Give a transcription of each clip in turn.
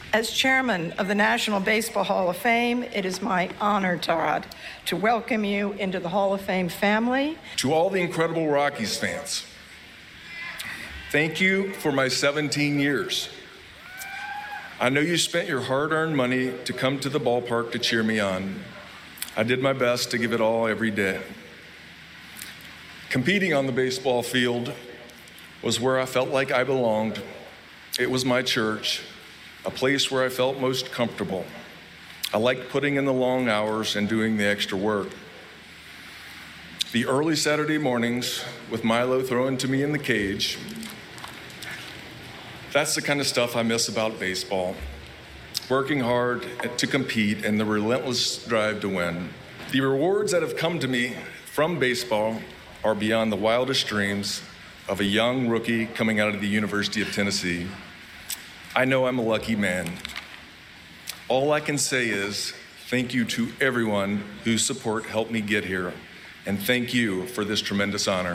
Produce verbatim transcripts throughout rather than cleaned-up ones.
As chairman of the National Baseball Hall of Fame, it is my honor, Todd, to welcome you into the Hall of Fame family. To all the incredible Rockies fans, thank you for my seventeen years. I know you spent your hard-earned money to come to the ballpark to cheer me on. I did my best to give it all every day. Competing on the baseball field was where I felt like I belonged. It was my church, a place where I felt most comfortable. I liked putting in the long hours and doing the extra work. The early Saturday mornings with Milo throwing to me in the cage, that's the kind of stuff I miss about baseball. Working hard to compete and the relentless drive to win. The rewards that have come to me from baseball are beyond the wildest dreams of a young rookie coming out of the University of Tennessee. I know I'm a lucky man. All I can say is thank you to everyone whose support helped me get here, and thank you for this tremendous honor.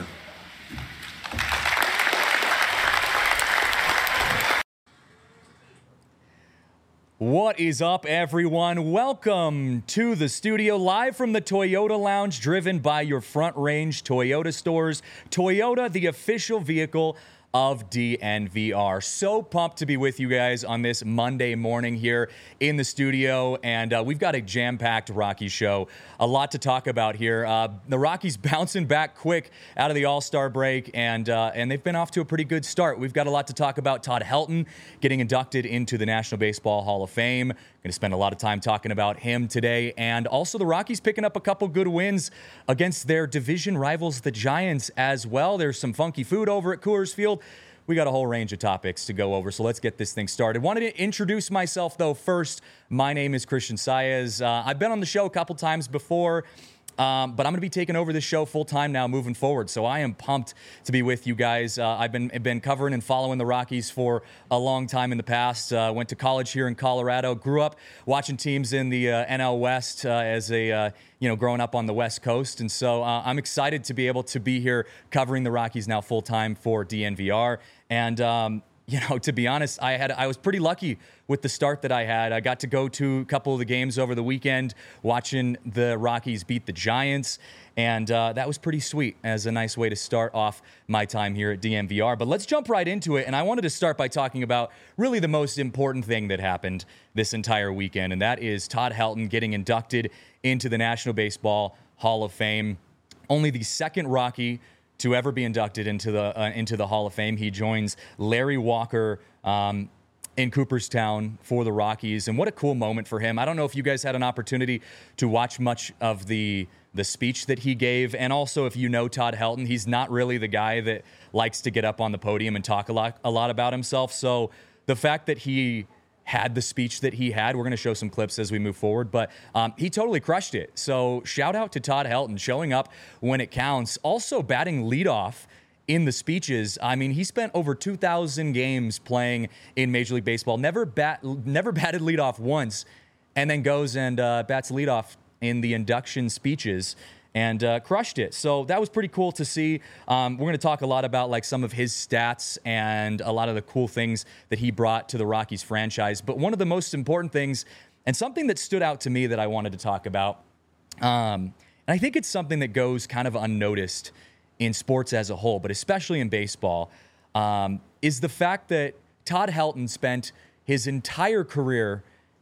What is up, everyone? Welcome to the studio, live from the Toyota Lounge, driven by your Front Range Toyota stores. Toyota, the official vehicle of D N V R. So pumped to be with you guys on this Monday morning here in the studio, and uh, we've got a jam-packed Rockies show. A lot to talk about here. Uh, the Rockies bouncing back quick out of the All-Star break, and uh, and they've been off to a pretty good start. We've got a lot to talk about. Todd Helton getting inducted into the National Baseball Hall of Fame. Going to spend a lot of time talking about him today, and also the Rockies picking up a couple good wins against their division rivals, the Giants, as well. There's some funky food over at Coors Field. We got a whole range of topics to go over, so let's get this thing started. Wanted to introduce myself, though, first. My name is Christian Saez. Uh, I've been on the show a couple times before, um, but I'm going to be taking over this show full-time now moving forward, so I am pumped to be with you guys. Uh, I've been been covering and following the Rockies for a long time in the past. Uh, went to college here in Colorado. Grew up watching teams in the uh, N L West uh, as a uh, you know, growing up on the West Coast. And so uh, I'm excited to be able to be here covering the Rockies now full-time for D N V R. And, um, you know, to be honest, I had I was pretty lucky with the start that I had. I got to go to a couple of the games over the weekend, watching the Rockies beat the Giants. And uh, that was pretty sweet as a nice way to start off my time here at D N V R. But let's jump right into it. And I wanted to start by talking about really the most important thing that happened this entire weekend, and that is Todd Helton getting inducted into the National Baseball Hall of Fame. Only the second Rocky to ever be inducted into the uh, into the Hall of Fame. He joins Larry Walker um, in Cooperstown for the Rockies, and what a cool moment for him. I don't know if you guys had an opportunity to watch much of the the speech that he gave, and also if you know Todd Helton, he's not really the guy that likes to get up on the podium and talk a lot a lot about himself. So the fact that he had the speech that he had, we're going to show some clips as we move forward, but um, he totally crushed it. So shout out to Todd Helton showing up when it counts. Also batting leadoff in the speeches. I mean, he spent over two thousand games playing in Major League Baseball, never bat, never batted leadoff once, and then goes and uh, bats leadoff in the induction speeches and uh, crushed it. So that was pretty cool to see. Um, we're going to talk a lot about like some of his stats and a lot of the cool things that he brought to the Rockies franchise. But one of the most important things, and something that stood out to me that I wanted to talk about, um, and I think it's something that goes kind of unnoticed in sports as a whole, but especially in baseball, um, is the fact that Todd Helton spent his entire career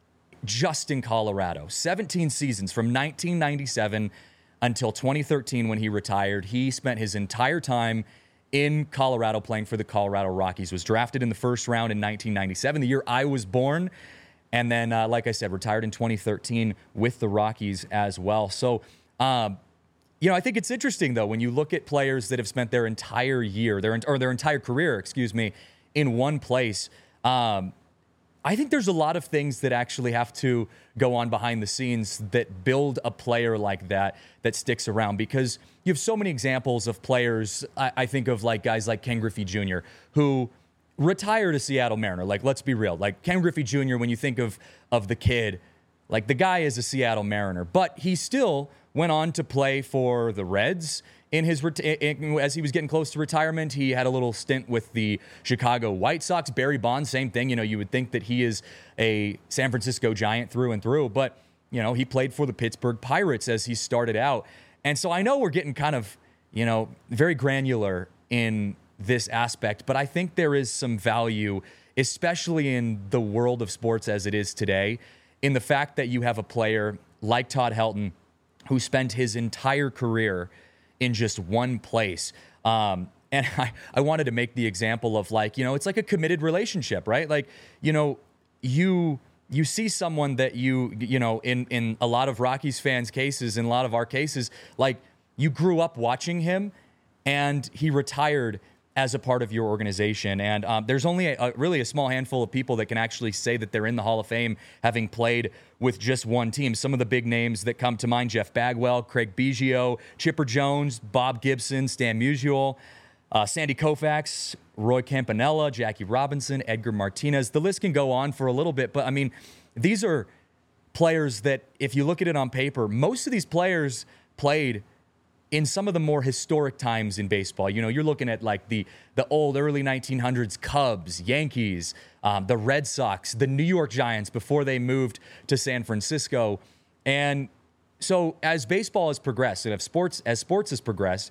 just in Colorado. seventeen seasons from nineteen ninety-seven until twenty thirteen when he retired. He spent his entire time in Colorado playing for the Colorado Rockies. Was drafted in the first round in nineteen ninety-seven, the year I was born. And then, uh, like I said, retired in twenty thirteen with the Rockies as well. So, um, you know, I think it's interesting, though, when you look at players that have spent their entire year, their or their entire career, excuse me, in one place. Um, I think there's a lot of things that actually have to go on behind the scenes that build a player like that that sticks around, because you have so many examples of players. I, I think of like guys like Ken Griffey Junior, who retired a Seattle Mariner. Like, let's be real. Like Ken Griffey Junior, when you think of of the kid, Like, the guy is a Seattle Mariner, but he still went on to play for the Reds. In his reti- in, as he was getting close to retirement, he had a little stint with the Chicago White Sox. Barry Bonds, same thing. You know, you would think that he is a San Francisco Giant through and through, but, you know, he played for the Pittsburgh Pirates as he started out. And so I know we're getting kind of, you know, very granular in this aspect, but I think there is some value, especially in the world of sports as it is today, in the fact that you have a player like Todd Helton who spent his entire career in just one place. Um, and I, I wanted to make the example of, like, you know, it's like a committed relationship, right? Like, you know, you you see someone that you, you know, in, in a lot of Rockies fans' cases, in a lot of our cases, like, you grew up watching him and he retired as a part of your organization. And um, there's only a, a, really a small handful of people that can actually say that they're in the Hall of Fame having played with just one team. Some of the big names that come to mind: Jeff Bagwell, Craig Biggio, Chipper Jones, Bob Gibson, Stan Musial, uh, Sandy Koufax, Roy Campanella, Jackie Robinson, Edgar Martinez. The list can go on for a little bit, but I mean, these are players that, if you look at it on paper, most of these players played in some of the more historic times in baseball. You know, you're looking at like the the old early nineteen hundreds Cubs, Yankees, um, the Red Sox, the New York Giants before they moved to San Francisco. And so as baseball has progressed, and if sports as sports has progressed,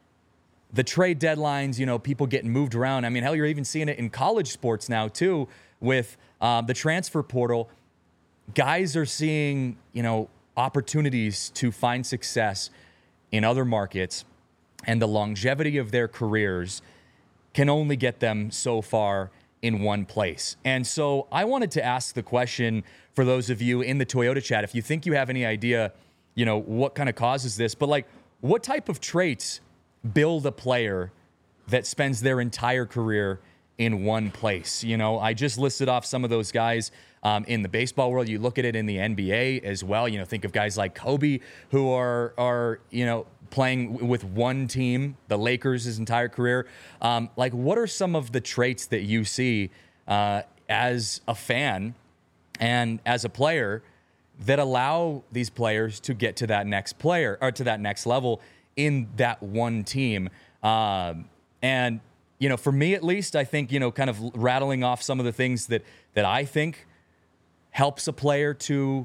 the trade deadlines, you know, people getting moved around. I mean, hell, you're even seeing it in college sports now too, with um, the transfer portal. Guys are seeing, you know, opportunities to find success in other markets, and the longevity of their careers can only get them so far in one place. And so I wanted to ask the question for those of you in the Toyota chat, if you think you have any idea, you know, what kind of causes this, but like, what type of traits build a player that spends their entire career in one place? You know, I just listed off some of those guys um, in the baseball world. You look at it in the N B A as well. You know, think of guys like Kobe, who are, are you know, playing with one team, the Lakers, his entire career. Um, like, what are some of the traits that you see uh, as a fan and as a player that allow these players to get to that next player or to that next level in that one team? Um, and You know, for me at least, I think, you know, kind of rattling off some of the things that that I think helps a player to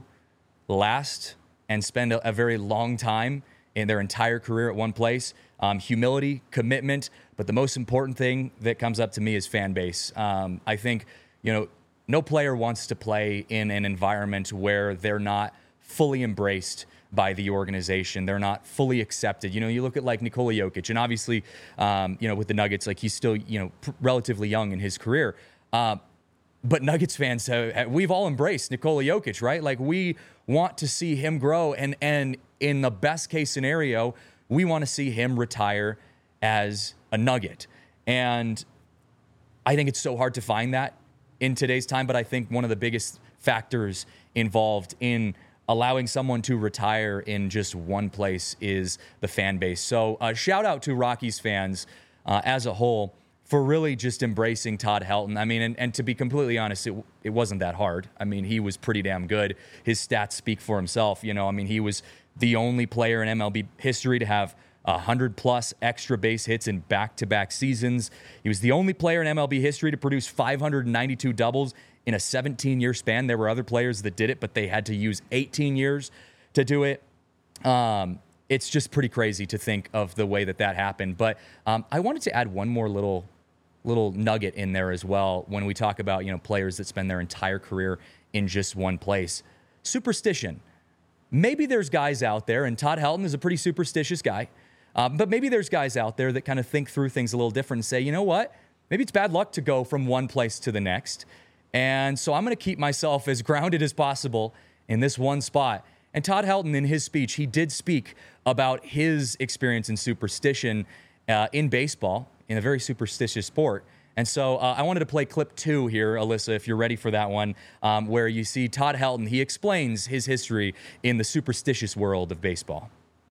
last and spend a, a very long time in their entire career at one place. Um, humility, commitment, but the most important thing that comes up to me is fan base. Um, I think, you know, no player wants to play in an environment where they're not fully embraced by the organization. They're not fully accepted. You know, you look at like Nikola Jokic, and obviously, um, you know, with the Nuggets, like he's still, you know, pr- relatively young in his career. Uh, but Nuggets fans, have, we've all embraced Nikola Jokic, right? Like, we want to see him grow, and and in the best case scenario, we want to see him retire as a Nugget. And I think it's so hard to find that in today's time, but I think one of the biggest factors involved in allowing someone to retire in just one place is the fan base. So uh, shout out to Rockies fans uh, as a whole for really just embracing Todd Helton. I mean, and, and to be completely honest, it, it wasn't that hard. I mean, he was pretty damn good. His stats speak for himself. You know, I mean, he was the only player in M L B history to have one hundred plus extra base hits in back-to-back seasons. He was the only player in M L B history to produce five hundred ninety-two doubles in a seventeen-year span. There were other players that did it, but they had to use eighteen years to do it. Um, it's just pretty crazy to think of the way that that happened. But um, I wanted to add one more little little nugget in there as well when we talk about, you know, players that spend their entire career in just one place. Superstition. Maybe there's guys out there, and Todd Helton is a pretty superstitious guy, um, but maybe there's guys out there that kind of think through things a little different and say, you know what? Maybe it's bad luck to go from one place to the next. And so I'm going to keep myself as grounded as possible in this one spot. And Todd Helton, in his speech, he did speak about his experience in superstition uh, in baseball, in a very superstitious sport. And so uh, I wanted to play clip two here, Alyssa, if you're ready for that one, um, where you see Todd Helton. He explains his history in the superstitious world of baseball.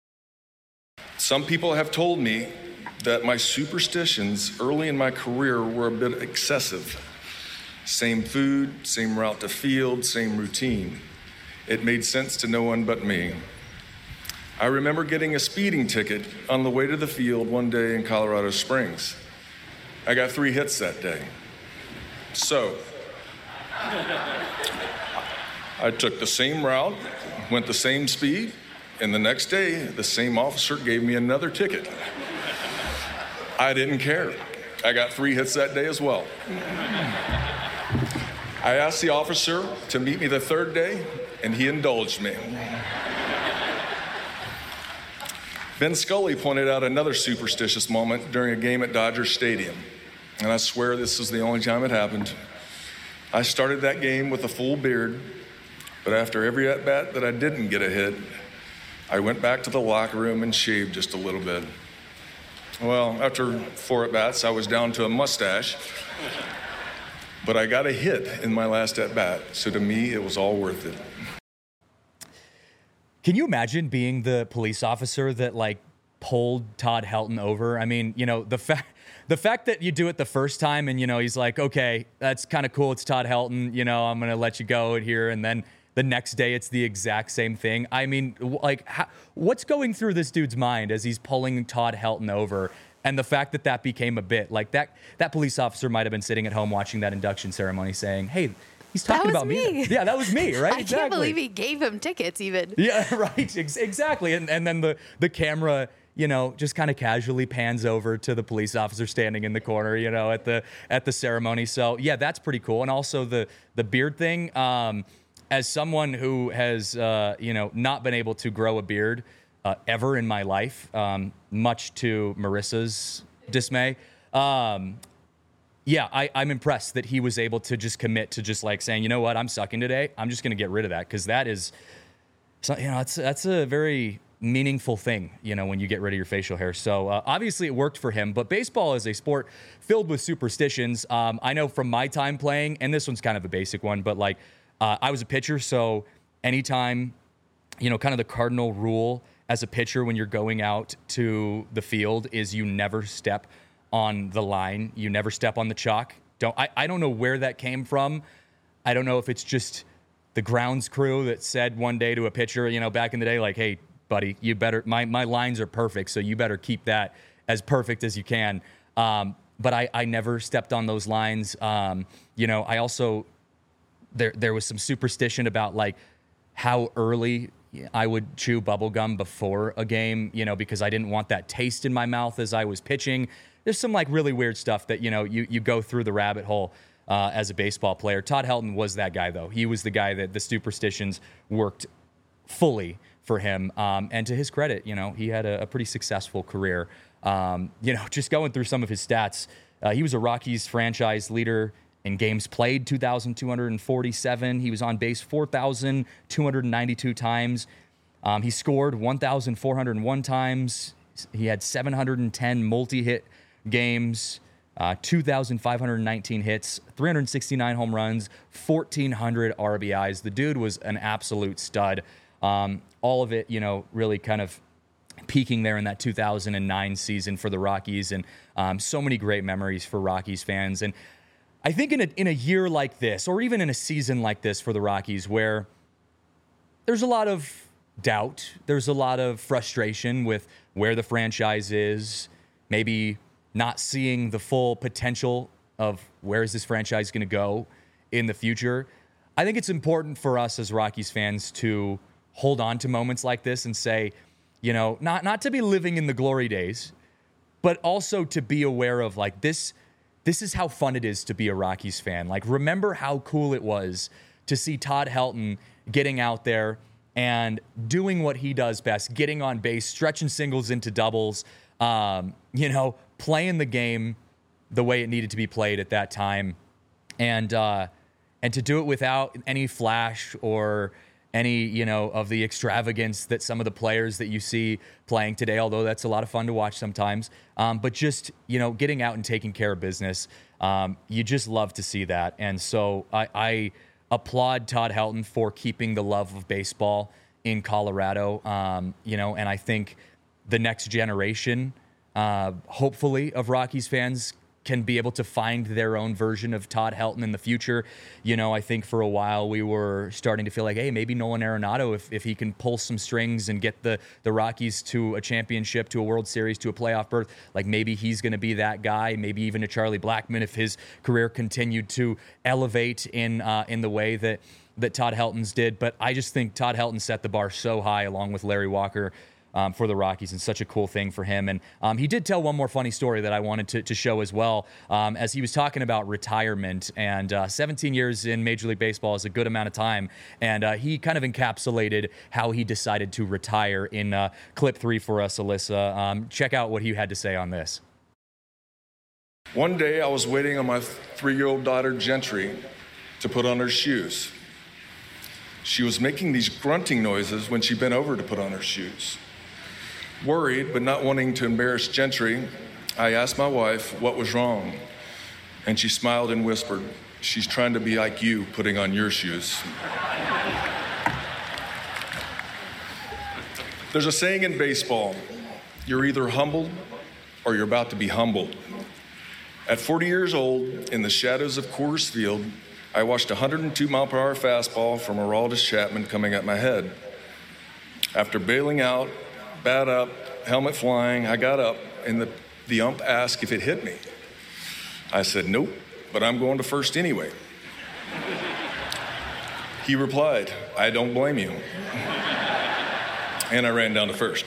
Some people have told me that my superstitions early in my career were a bit excessive. Same food, same route to field, same routine. It made sense to no one but me. I remember getting a speeding ticket on the way to the field one day in Colorado Springs. I got three hits that day. So, I took the same route, went the same speed, and the next day, the same officer gave me another ticket. I didn't care. I got three hits that day as well. I asked the officer to meet me the third day, and he indulged me. Ben Scully pointed out another superstitious moment during a game at Dodger Stadium, and I swear this is the only time it happened. I started that game with a full beard, but after every at-bat that I didn't get a hit, I went back to the locker room and shaved just a little bit. Well, after four at-bats, I was down to a mustache, but I got a hit in my last at-bat, so to me, it was all worth it. Can you imagine being the police officer that like pulled Todd Helton over? I mean, you know, the fact the fact that you do it the first time and, you know, he's like, okay, that's kind of cool. It's Todd Helton. You know, I'm going to let you go here. And then the next day it's the exact same thing. I mean, like, how, what's going through this dude's mind as he's pulling Todd Helton over? And the fact that that became a bit like that, that police officer might have been sitting at home watching that induction ceremony saying, hey, he's talking about me. me. Yeah, that was me, right? I exactly. can't believe he gave him tickets even. Yeah, right. Ex- exactly. And and then the, the camera, you know, just kind of casually pans over to the police officer standing in the corner, you know, at the at the ceremony. So, yeah, that's pretty cool. And also the the beard thing. Um, as someone who has, uh, you know, not been able to grow a beard uh, ever in my life, um, much to Marissa's dismay, um, yeah, I, I'm impressed that he was able to just commit to just like saying, you know what, I'm sucking today. I'm just going to get rid of that because that is, so, you know, that's that's a very meaningful thing, you know, when you get rid of your facial hair. So uh, obviously it worked for him, but baseball is a sport filled with superstitions. Um, I know from my time playing, and this one's kind of a basic one, but like uh, I was a pitcher, so anytime, you know, kind of the cardinal rule as a pitcher when you're going out to the field is you never step on the line. You never step on the chalk. Don't I, I don't know where that came from. I don't know if it's just the grounds crew that said one day to a pitcher, you know, back in the day, like, hey, buddy, you better, my, my lines are perfect, so you better keep that as perfect as you can. Um, but I, I never stepped on those lines. Um, you know, I also, there there was some superstition about like how early I would chew bubble gum before a game, you know, because I didn't want that taste in my mouth as I was pitching. There's some like really weird stuff that, you know, you, you go through the rabbit hole uh, as a baseball player. Todd Helton was that guy, though. He was the guy that the superstitions worked fully for him. Um, and to his credit, you know, he had a, a pretty successful career. Um, you know, just going through some of his stats, uh, he was a Rockies franchise leader in games played, two thousand two hundred forty-seven. He was on base four thousand two hundred ninety-two times. Um, he scored one thousand four hundred one times. He had seven hundred ten multi-hit games, uh, two thousand five hundred nineteen hits, three hundred sixty-nine home runs, fourteen hundred R B Is. The dude was an absolute stud. Um, all of it, you know, really kind of peaking there in that two thousand nine season for the Rockies, and um, so many great memories for Rockies fans. And I think in a in a year like this, or even in a season like this for the Rockies, where there's a lot of doubt, there's a lot of frustration with where the franchise is, maybe not seeing the full potential of where is this franchise going to go in the future. I think it's important for us as Rockies fans to hold on to moments like this and say, you know, not not to be living in the glory days, but also to be aware of like this. This is how fun it is to be a Rockies fan. Like, remember how cool it was to see Todd Helton getting out there and doing what he does best, getting on base, stretching singles into doubles, um, you know, playing the game the way it needed to be played at that time. And uh, and to do it without any flash or any, you know, of the extravagance that some of the players that you see playing today, although that's a lot of fun to watch sometimes. Um, but just, you know, getting out and taking care of business. Um, you just love to see that. And so I, I applaud Todd Helton for keeping the love of baseball in Colorado. Um, you know, and I think the next generation, uh, hopefully, of Rockies fans can be able to find their own version of Todd Helton in the future. You know, I think for a while we were starting to feel like, hey, maybe Nolan Arenado, if, if he can pull some strings and get the, the Rockies to a championship, to a World Series, to a playoff berth, like maybe he's going to be that guy. Maybe even a Charlie Blackmon if his career continued to elevate in uh, in the way that, that Todd Helton's did. But I just think Todd Helton set the bar so high along with Larry Walker Um, for the Rockies, and such a cool thing for him. And um, he did tell one more funny story that I wanted to, to show as well, um, as he was talking about retirement. And uh, seventeen years in Major League Baseball is a good amount of time. And uh, he kind of encapsulated how he decided to retire in uh, clip three for us, Alyssa. Um, check out what he had to say on this. One day I was waiting on my three-year-old daughter, Gentry, to put on her shoes. She was making these grunting noises when she bent over to put on her shoes. Worried, but not wanting to embarrass Gentry, I asked my wife what was wrong. And she smiled and whispered, "She's trying to be like you, putting on your shoes." There's a saying in baseball, you're either humbled or you're about to be humbled. At forty years old, in the shadows of Coors Field, I watched a one hundred two mile per hour fastball from Aroldis Chapman coming at my head. After bailing out, bat up, helmet flying, I got up, and the, the ump asked if it hit me. I said, "Nope, but I'm going to first anyway." He replied, "I don't blame you." And I ran down to first.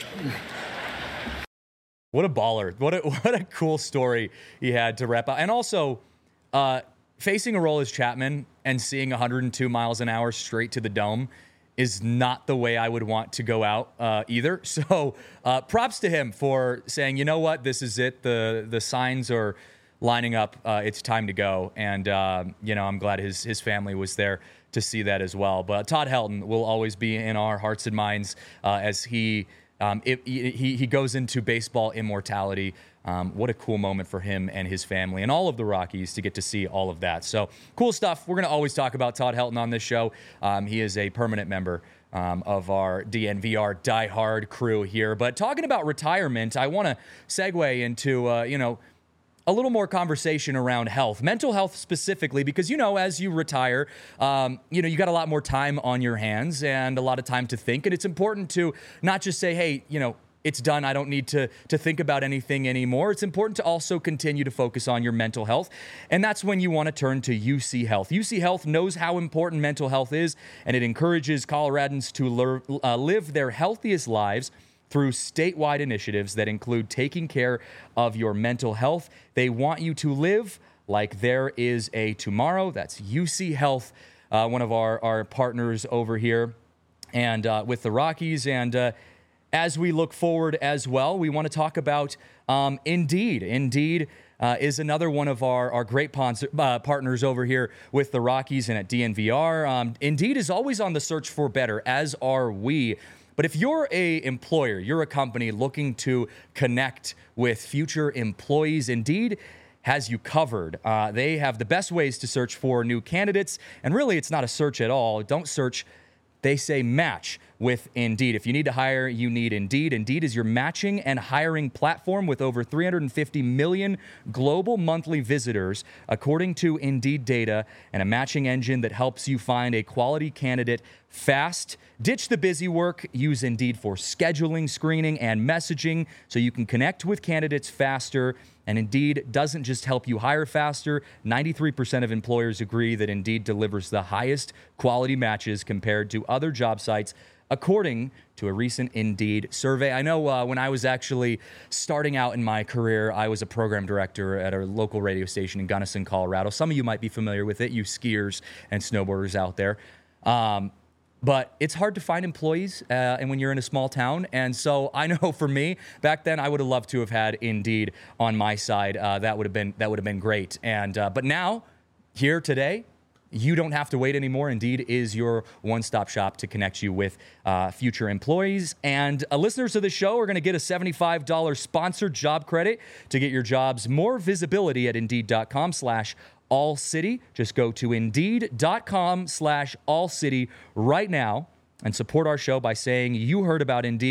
What a baller. What a, what a cool story he had to wrap up. And also, uh, facing Aroldis Chapman and seeing one hundred two miles an hour straight to the dome is not the way I would want to go out uh, either. So uh, props to him for saying, you know what, this is it. The the signs are lining up. Uh, it's time to go. And, uh, you know, I'm glad his his family was there to see that as well. But Todd Helton will always be in our hearts and minds uh, as he, um, it, he, he goes into baseball immortality. Um, what a cool moment for him and his family and all of the Rockies to get to see all of that. So cool stuff. We're going to always talk about Todd Helton on this show. Um, he is a permanent member um, of our D N V R diehard crew here. But talking about retirement, I want to segue into, uh, you know, a little more conversation around health, mental health specifically, because, you know, as you retire, um, you know, you got a lot more time on your hands and a lot of time to think. And it's important to not just say, hey, you know, it's done. I don't need to to think about anything anymore. It's important to also continue to focus on your mental health. And that's when you want to turn to U C Health. U C Health knows how important mental health is, and it encourages Coloradans to lear, uh, live their healthiest lives through statewide initiatives that include taking care of your mental health. They want you to live like there is a tomorrow. That's U C Health, uh, one of our, our partners over here and uh, with the Rockies. And uh, as we look forward as well, we want to talk about um, Indeed. Indeed uh, is another one of our, our great pons- uh, partners over here with the Rockies and at D N V R. Um, Indeed is always on the search for better, as are we. But if you're a employer, you're a company looking to connect with future employees, Indeed has you covered. Uh, they have the best ways to search for new candidates. And really, it's not a search at all. Don't search. They say match with Indeed. If you need to hire, you need Indeed. Indeed is your matching and hiring platform with over three hundred fifty million global monthly visitors, according to Indeed data, and a matching engine that helps you find a quality candidate fast. Ditch the busy work. Use Indeed for scheduling, screening, and messaging so you can connect with candidates faster. And Indeed doesn't just help you hire faster. ninety-three percent of employers agree that Indeed delivers the highest quality matches compared to other job sites, according to a recent Indeed survey. I know uh, when I was actually starting out in my career, I was a program director at a local radio station in Gunnison, Colorado. Some of you might be familiar with it, you skiers and snowboarders out there. Um, But it's hard to find employees, uh, and when you're in a small town. And so I know for me, back then, I would have loved to have had Indeed on my side. Uh, that would have been that would have been great. And uh, but now, here today, you don't have to wait anymore. Indeed is your one-stop shop to connect you with uh, future employees. And uh, listeners of the show are going to get a seventy-five dollars sponsored job credit to get your jobs more visibility at Indeed.com slash All City. Just go to Indeed.com slash All City right now and support our show by saying you heard about Indeed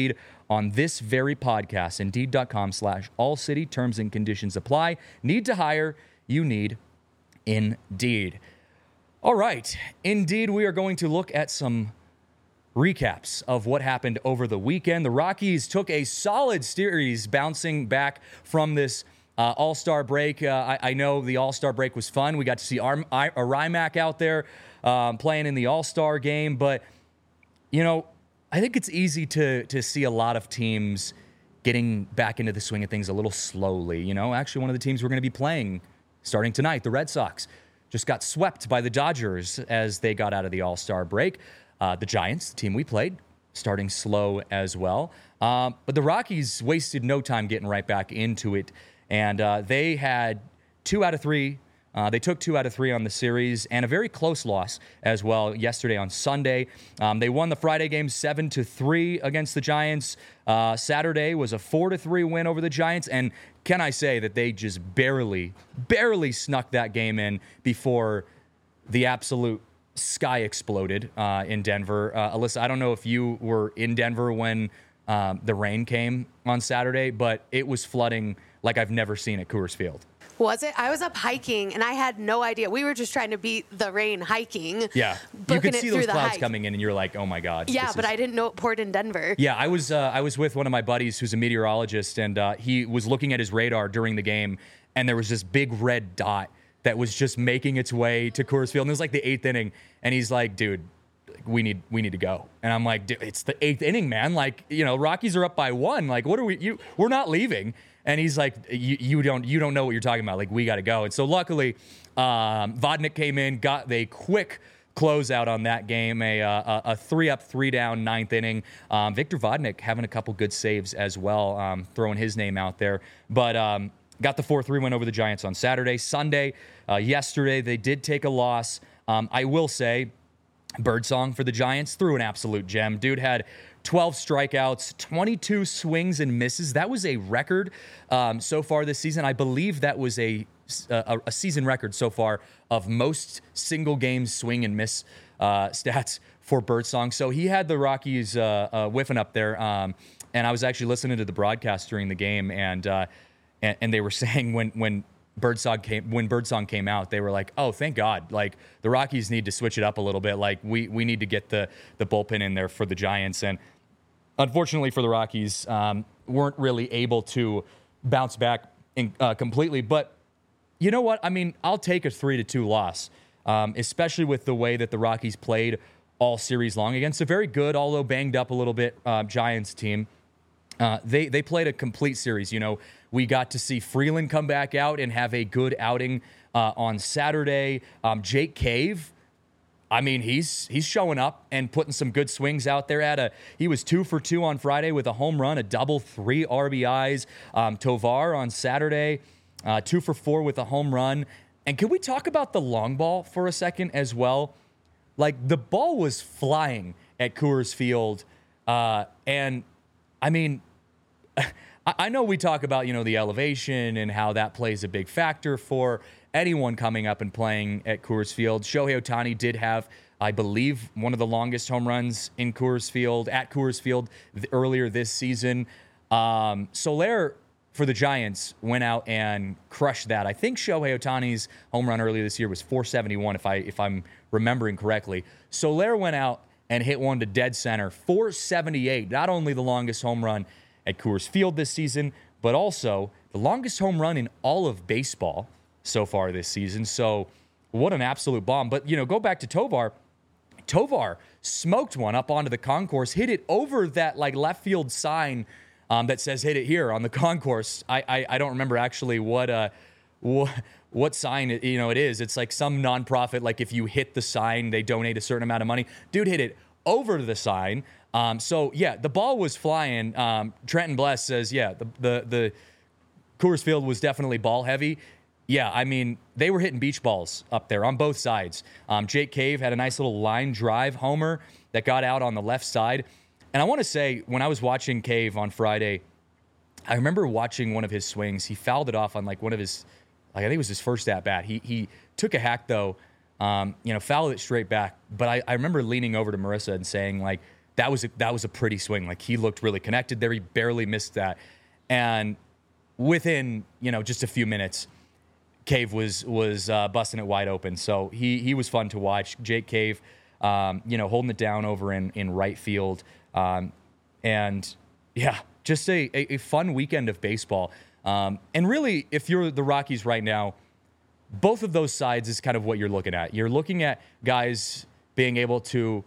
on this very podcast. Indeed.com slash all city. Terms and conditions apply. Need to hire? You need Indeed. All right. Indeed, we are going to look at some recaps of what happened over the weekend. The Rockies took a solid series bouncing back from this uh, All-Star break. Uh, I, I know the All-Star break was fun. We got to see Ar- I- Rymack out there um, playing in the All-Star game. But, you know, I think it's easy to to see a lot of teams getting back into the swing of things a little slowly. You know, actually one of the teams we're going to be playing starting tonight, the Red Sox, just got swept by the Dodgers as they got out of the All-Star break. Uh, the Giants, the team we played, starting slow as well. Um, but the Rockies wasted no time getting right back into it. And uh, they had two out of three. Uh, they took two out of three on the series and a very close loss as well yesterday on Sunday. Um, they won the Friday game seven to three against the Giants. Uh, Saturday was a four to three win over the Giants. And can I say that they just barely, barely snuck that game in before the absolute sky exploded uh, in Denver. Uh, Alyssa, I don't know if you were in Denver when um, the rain came on Saturday, but it was flooding like I've never seen at Coors Field. Was it? I was up hiking, and I had no idea. We were just trying to beat the rain hiking. Yeah. You could see those clouds hike. coming in, and you're like, oh, my God. Yeah, but is... I didn't know it poured in Denver. Yeah, I was uh, I was with one of my buddies who's a meteorologist, and uh, he was looking at his radar during the game, and there was this big red dot that was just making its way to Coors Field. And it was like the eighth inning. And he's like, dude, we need we need to go. And I'm like, dude, it's the eighth inning, man. Like, you know, Rockies are up by one. Like, what are we, you, we're not leaving. And he's like, you, you don't you don't know what you're talking about. Like, we got to go. And so luckily, um, Vodnik came in, got the quick closeout on that game, a, a, a three up, three down, ninth inning. Um, Victor Vodnik having a couple good saves as well, um, throwing his name out there. But, um, got the four three win over the Giants on Saturday. Sunday, uh, yesterday, they did take a loss. Um, I will say, Birdsong for the Giants threw an absolute gem. Dude had twelve strikeouts, twenty-two swings and misses. That was a record um, so far this season. I believe that was a, a, a season record so far of most single game swing and miss uh, stats for Birdsong. So he had the Rockies uh, uh, whiffing up there. Um, and I was actually listening to the broadcast during the game, and uh, And, and they were saying when when Birdsong came when Birdsong came out, they were like, "Oh, thank God! Like the Rockies need to switch it up a little bit. Like we we need to get the the bullpen in there for the Giants." And unfortunately for the Rockies, um, weren't really able to bounce back in, uh, completely. But you know what? I mean, I'll take a three to two loss, um, especially with the way that the Rockies played all series long against a very good, although banged up a little bit, uh, Giants team. Uh, they they played a complete series. You know, we got to see Freeland come back out and have a good outing uh, on Saturday. Um, Jake Cave, I mean, he's he's showing up and putting some good swings out there. At a he was two for two on Friday with a home run, a double, three R B Is. Um, Tovar on Saturday, uh, two for four with a home run. And can we talk about the long ball for a second as well? Like the ball was flying at Coors Field, uh, and I mean. I know we talk about, you know, the elevation and how that plays a big factor for anyone coming up and playing at Coors Field. Shohei Ohtani did have, I believe, one of the longest home runs in Coors Field, at Coors Field th- earlier this season. Um, Soler for the Giants went out and crushed that. I think Shohei Ohtani's home run earlier this year was four seventy-one, if I if I'm remembering correctly. Soler went out and hit one to dead center, four seventy-eight. Not only the longest home run at Coors Field this season, but also the longest home run in all of baseball so far this season. So what an absolute bomb. But, you know, go back to Tovar. Tovar smoked one up onto the concourse, hit it over that, like, left field sign um, that says hit it here on the concourse. I I, I don't remember actually what uh what, what sign it, you know, it is. It's like some nonprofit, like if you hit the sign, they donate a certain amount of money. Dude hit it over the sign. Um, so, yeah, the ball was flying. Um, Trenton Bless says, yeah, the, the the Coors Field was definitely ball heavy. Yeah, I mean, they were hitting beach balls up there on both sides. Um, Jake Cave had a nice little line drive homer that got out on the left side. And I want to say, when I was watching Cave on Friday, I remember watching one of his swings. He fouled it off on, like, one of his, like I think it was his first at-bat. He, he took a hack, though, um, you know, fouled it straight back. But I, I remember leaning over to Marissa and saying, like, that was a, that was a pretty swing. Like, he looked really connected there. He barely missed that. And within, you know, just a few minutes, Cave was was uh, busting it wide open. So he he was fun to watch. Jake Cave, um, you know, holding it down over in, in right field. Um, and, yeah, just a, a, a fun weekend of baseball. Um, and really, if you're the Rockies right now, both of those sides is kind of what you're looking at. You're looking at guys being able to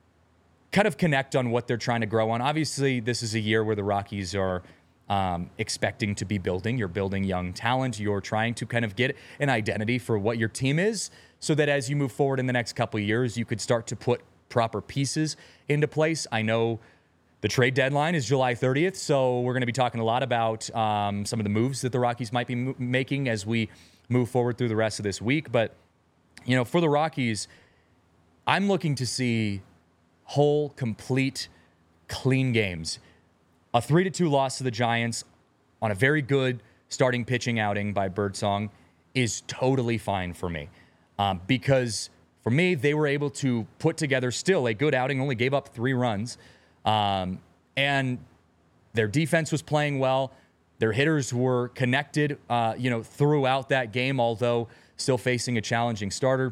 kind of connect on what they're trying to grow on. Obviously, this is a year where the Rockies are um, expecting to be building. You're building young talent. You're trying to kind of get an identity for what your team is so that as you move forward in the next couple of years, you could start to put proper pieces into place. I know the trade deadline is July thirtieth, so we're going to be talking a lot about um, some of the moves that the Rockies might be mo- making as we move forward through the rest of this week. But, you know, for the Rockies, I'm looking to see whole, complete, clean games. A three to two loss to the Giants on a very good starting pitching outing by Birdsong is totally fine for me. Um, because for me, they were able to put together still a good outing, only gave up three runs. Um, and their defense was playing well. Their hitters were connected, uh, you know, throughout that game, although still facing a challenging starter.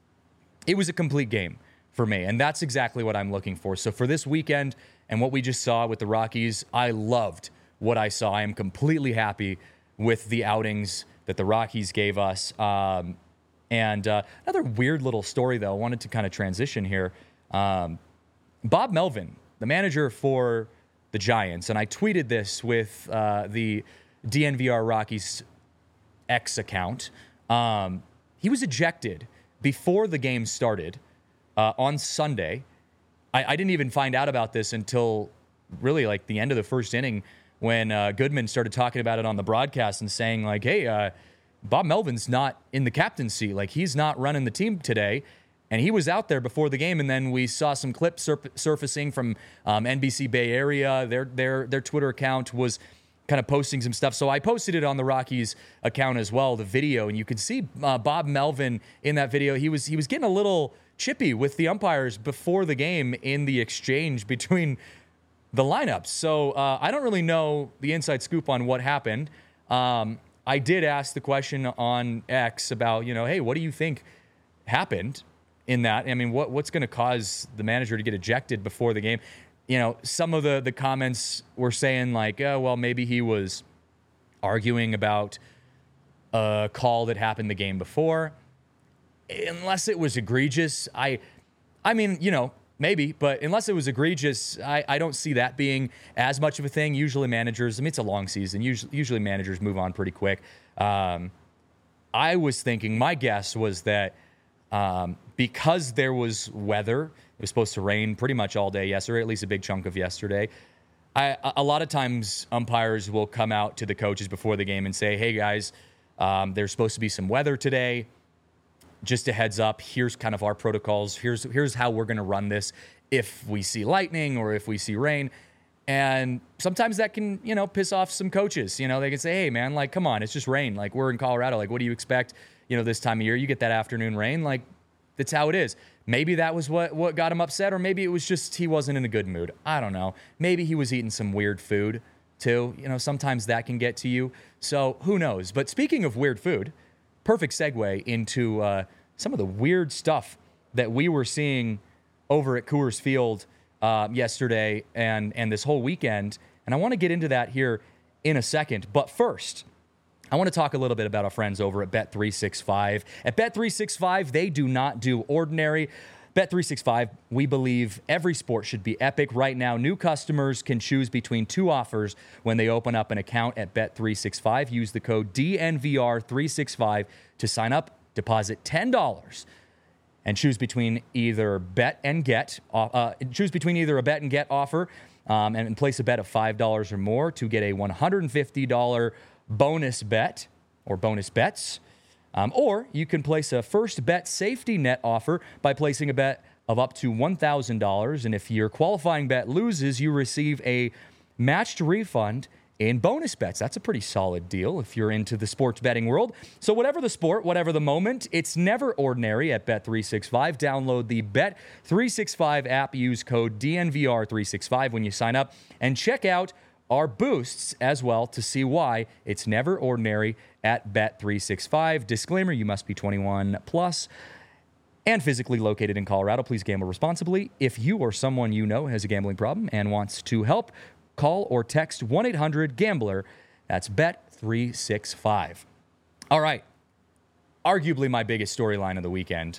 It was a complete game for me, and that's exactly what I'm looking for. So for this weekend and what we just saw with the Rockies, I loved what I saw. I am completely happy with the outings that the Rockies gave us. Um, and uh, another weird little story, though, I wanted to kind of transition here. Um, Bob Melvin, the manager for the Giants, and I tweeted this with uh, the D N V R Rockies X account. Um, he was ejected before the game started uh, on Sunday. I, I didn't even find out about this until really like the end of the first inning when uh, Goodman started talking about it on the broadcast and saying like, hey, uh, Bob Melvin's not in the captaincy. Like, he's not running the team today. And he was out there before the game, and then we saw some clips sur- surfacing from um, N B C Bay Area. Their their their Twitter account was kind of posting some stuff. So I posted it on the Rockies account as well, the video, and you could see uh, Bob Melvin in that video. He was he was getting a little chippy with the umpires before the game in the exchange between the lineups. So uh, I don't really know the inside scoop on what happened. Um, I did ask the question on X about, you know, hey, what do you think happened in that? I mean, what what's going to cause the manager to get ejected before the game? You know, some of the, the comments were saying like, oh, well, maybe he was arguing about a call that happened the game before. Unless it was egregious, I, I mean, you know, maybe, but unless it was egregious, I, I don't see that being as much of a thing. Usually managers, I mean, it's a long season. Usually, usually managers move on pretty quick. Um, I was thinking, my guess was that um, because there was weather, it was supposed to rain pretty much all day yesterday, at least a big chunk of yesterday. I, a lot of times umpires will come out to the coaches before the game and say, hey guys, um, there's supposed to be some weather today. Just a heads up, here's kind of our protocols. Here's here's how we're going to run this if we see lightning or if we see rain. And sometimes that can, you know, piss off some coaches. You know, they can say, hey, man, like, come on, it's just rain. Like, we're in Colorado. Like, what do you expect, you know, this time of year? You get that afternoon rain. Like, that's how it is. Maybe that was what, what got him upset, or maybe it was just he wasn't in a good mood. I don't know. Maybe he was eating some weird food, too. You know, sometimes that can get to you. So who knows? But speaking of weird food, perfect segue into uh, some of the weird stuff that we were seeing over at Coors Field uh, yesterday and, and this whole weekend. And I want to get into that here in a second. But first, I want to talk a little bit about our friends over at Bet three sixty-five. At Bet three sixty-five, they do not do ordinary. Bet three sixty-five, we believe every sport should be epic. Right now, new customers can choose between two offers when they open up an account at Bet three sixty-five. Use the code D N V R three sixty-five to sign up, deposit ten dollars, and choose between either bet and get. Uh, choose between either a bet and get offer um, and place a bet of five dollars or more to get a one hundred fifty dollars bonus bet or bonus bets. Um, or you can place a first bet safety net offer by placing a bet of up to one thousand dollars. And if your qualifying bet loses, you receive a matched refund in bonus bets. That's a pretty solid deal if you're into the sports betting world. So whatever the sport, whatever the moment, it's never ordinary at Bet three sixty-five. Download the Bet three sixty-five app. Use code D N V R three sixty-five when you sign up. And check out our boosts as well to see why it's never ordinary at Bet three sixty-five. Disclaimer, you must be twenty-one plus and physically located in Colorado. Please gamble responsibly. If you or someone you know has a gambling problem and wants to help, call or text one eight hundred gambler. That's Bet three sixty-five. All right. Arguably my biggest storyline of the weekend.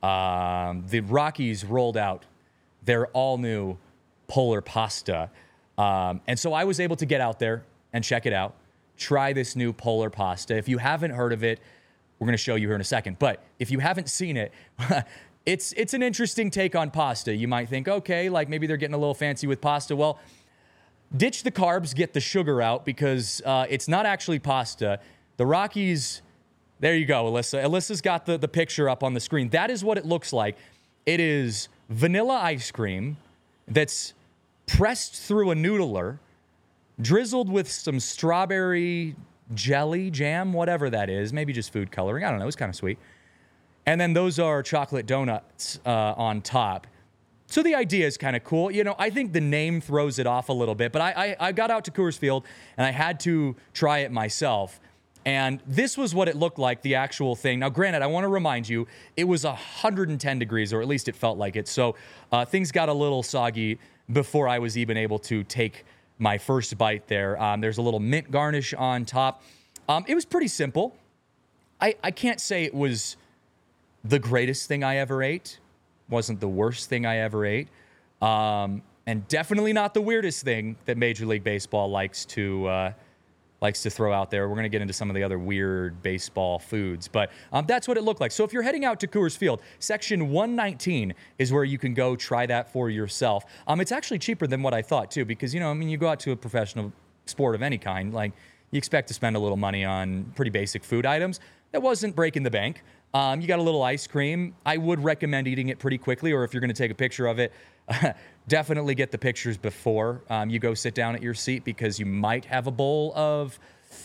Um, the Rockies rolled out their all-new Polar Pasta. Um, and so I was able to get out there and check it out, try this new Polar Pasta. If you haven't heard of it, we're going to show you here in a second. But if you haven't seen it, it's it's an interesting take on pasta. You might think, okay, like maybe they're getting a little fancy with pasta. Well, ditch the carbs, get the sugar out, because uh, it's not actually pasta. The Rockies, there you go, Alyssa. Alyssa's got the, the picture up on the screen. That is what it looks like. It is vanilla ice cream that's pressed through a noodler, drizzled with some strawberry jelly, jam, whatever that is, maybe just food coloring. I don't know. It's kind of sweet. And then those are chocolate donuts uh, on top. So the idea is kind of cool. You know, I think the name throws it off a little bit, but I, I, I got out to Coors Field and I had to try it myself. And this was what it looked like, the actual thing. Now, granted, I want to remind you, it was one hundred ten degrees, or at least it felt like it. So uh, things got a little soggy before I was even able to take my first bite there. Um, there's a little mint garnish on top. Um, it was pretty simple. I, I can't say it was the greatest thing I ever ate. Wasn't the worst thing I ever ate. Um, and definitely not the weirdest thing that Major League Baseball likes to uh, likes to throw out there. We're going to get into some of the other weird baseball foods. But um, that's what it looked like. So if you're heading out to Coors Field, section one nineteen is where you can go try that for yourself. Um, it's actually cheaper than what I thought, too, because, you know, I mean, you go out to a professional sport of any kind, like, you expect to spend a little money on pretty basic food items. That wasn't breaking the bank. Um, you got a little ice cream. I would recommend eating it pretty quickly, or if you're going to take a picture of it, definitely get the pictures before um, you go sit down at your seat, because you might have a bowl of,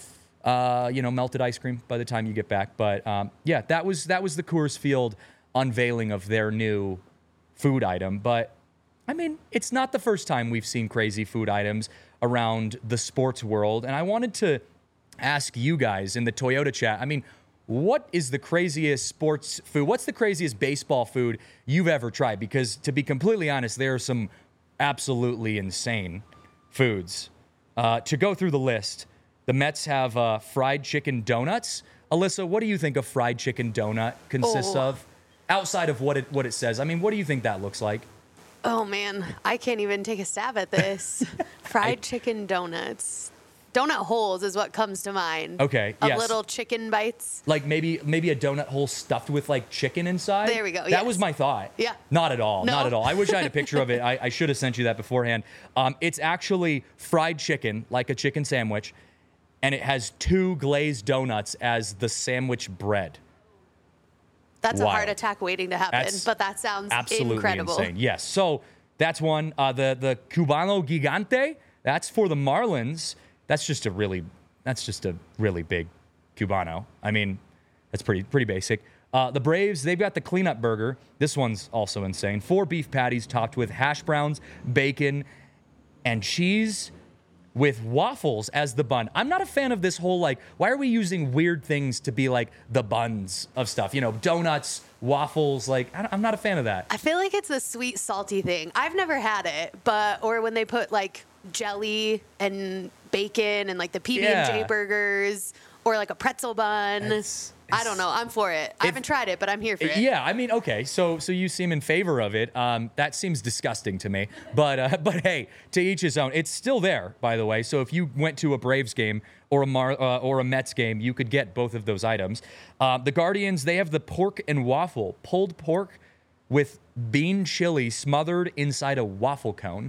uh, you know, melted ice cream by the time you get back. But um, yeah, that was that was the Coors Field unveiling of their new food item. But I mean, it's not the first time we've seen crazy food items around the sports world. And I wanted to ask you guys in the Toyota chat, I mean, what is the craziest sports food? What's the craziest baseball food you've ever tried? Because to be completely honest, there are some absolutely insane foods. Uh, to go through the list, the Mets have uh, fried chicken donuts. Alyssa, what do you think a fried chicken donut consists Oh. of? Outside of what it what it says. I mean, what do you think that looks like? Oh man, I can't even take a stab at this. Fried chicken donuts. Donut holes is what comes to mind. Okay, Of yes. little chicken bites. Like maybe maybe a donut hole stuffed with like chicken inside. There we go, That yes. was my thought. Yeah. Not at all. No. Not at all. I wish I had a picture of it. I, I should have sent you that beforehand. Um, it's actually fried chicken, like a chicken sandwich, and it has two glazed donuts as the sandwich bread. That's a Wild. heart attack waiting to happen, That's but that sounds Absolutely incredible. insane. Yes. So that's one. Uh, the the Cubano Gigante. That's for the Marlins. That's just a really. That's just a really big Cubano. I mean, that's pretty pretty basic. Uh, the Braves, they've got the cleanup burger. This one's also insane. Four beef patties topped with hash browns, bacon, and cheese with waffles as the bun. I'm not a fan of this whole, like, why are we using weird things to be like the buns of stuff? You know, donuts, waffles, like, I- I'm not a fan of that. I feel like it's a sweet, salty thing. I've never had it, but, or when they put like jelly and bacon and like the P B and J Yeah. burgers or like a pretzel bun. It's- I don't know. I'm for it. I If- haven't tried it, but I'm here for it. Yeah, I mean, okay, so so you seem in favor of it. Um, that seems disgusting to me, but uh, but hey, to each his own. It's still there, by the way. So if you went to a Braves game or a Mar- uh, or a Mets game, you could get both of those items. Uh, the Guardians, they have the pork and waffle, pulled pork with bean chili smothered inside a waffle cone.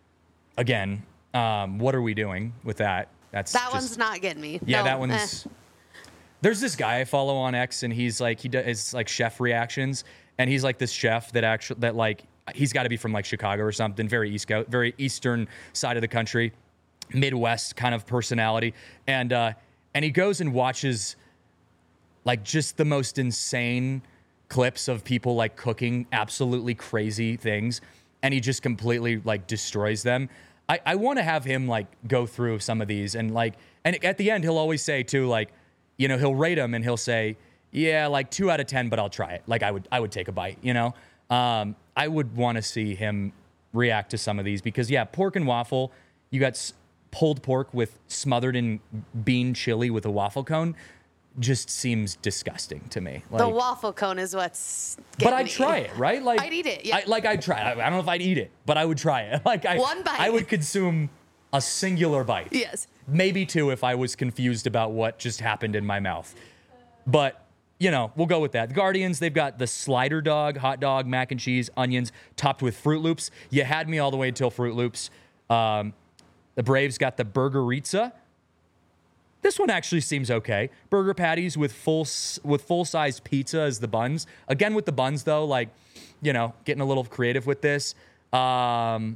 Again, um, what are we doing with that? That's That just- one's not getting me. Yeah, No, that eh. one's. There's this guy I follow on X, and he's like he does like chef reactions, and he's like this chef that actually that like he's got to be from like Chicago or something, very east coast, very eastern side of the country, Midwest kind of personality. And, uh, and he goes and watches like just the most insane clips of people like cooking absolutely crazy things. And he just completely like destroys them. I, I want to have him like go through some of these and like, and at the end, he'll always say too, like, you know, he'll rate them and he'll say, yeah, like two out of ten, but I'll try it. Like I would, I would take a bite, you know? Um, I would want to see him react to some of these because yeah, pork and waffle, you got s- pulled pork with smothered in bean chili with a waffle cone. Just seems disgusting to me. Like, the waffle cone is what's but getting I'd me. try it, right? Like I'd eat it, yeah. I, like I'd try it. I don't know if I'd eat it, but I would try it. Like I, One bite. I would consume a singular bite. Yes. Maybe two if I was confused about what just happened in my mouth. But, you know, we'll go with that. The Guardians, they've got the slider dog, hot dog, mac and cheese, onions, topped with Fruit Loops. You had me all the way until Fruit Loops. Um, the Braves got the Burgeritza. This one actually seems okay. Burger patties with full with full-size pizza as the buns. Again, with the buns, though, like, you know, getting a little creative with this. Um,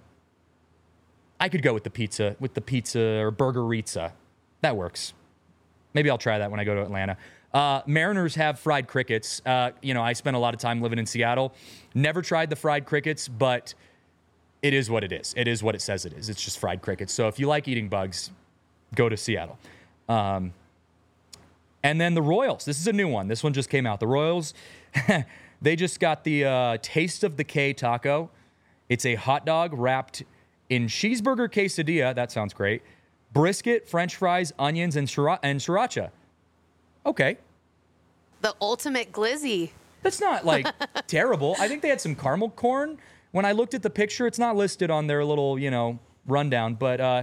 I could go with the pizza, with the pizza or Burgeritza. That works. Maybe I'll try that when I go to Atlanta. Uh, Mariners have fried crickets. Uh, you know, I spent a lot of time living in Seattle. Never tried the fried crickets, but it is what it is. It is what it says it is. It's just fried crickets. So if you like eating bugs, go to Seattle. Um, and then the Royals. This is a new one. This one just came out. The Royals, they just got the uh, Taste of the K taco. It's a hot dog wrapped in cheeseburger quesadilla. That sounds great. Brisket, French fries, onions, and, sriracha, and sriracha. Okay. The ultimate glizzy. That's not, like, terrible. I think they had some caramel corn. When I looked at the picture, it's not listed on their little, you know, rundown. But uh,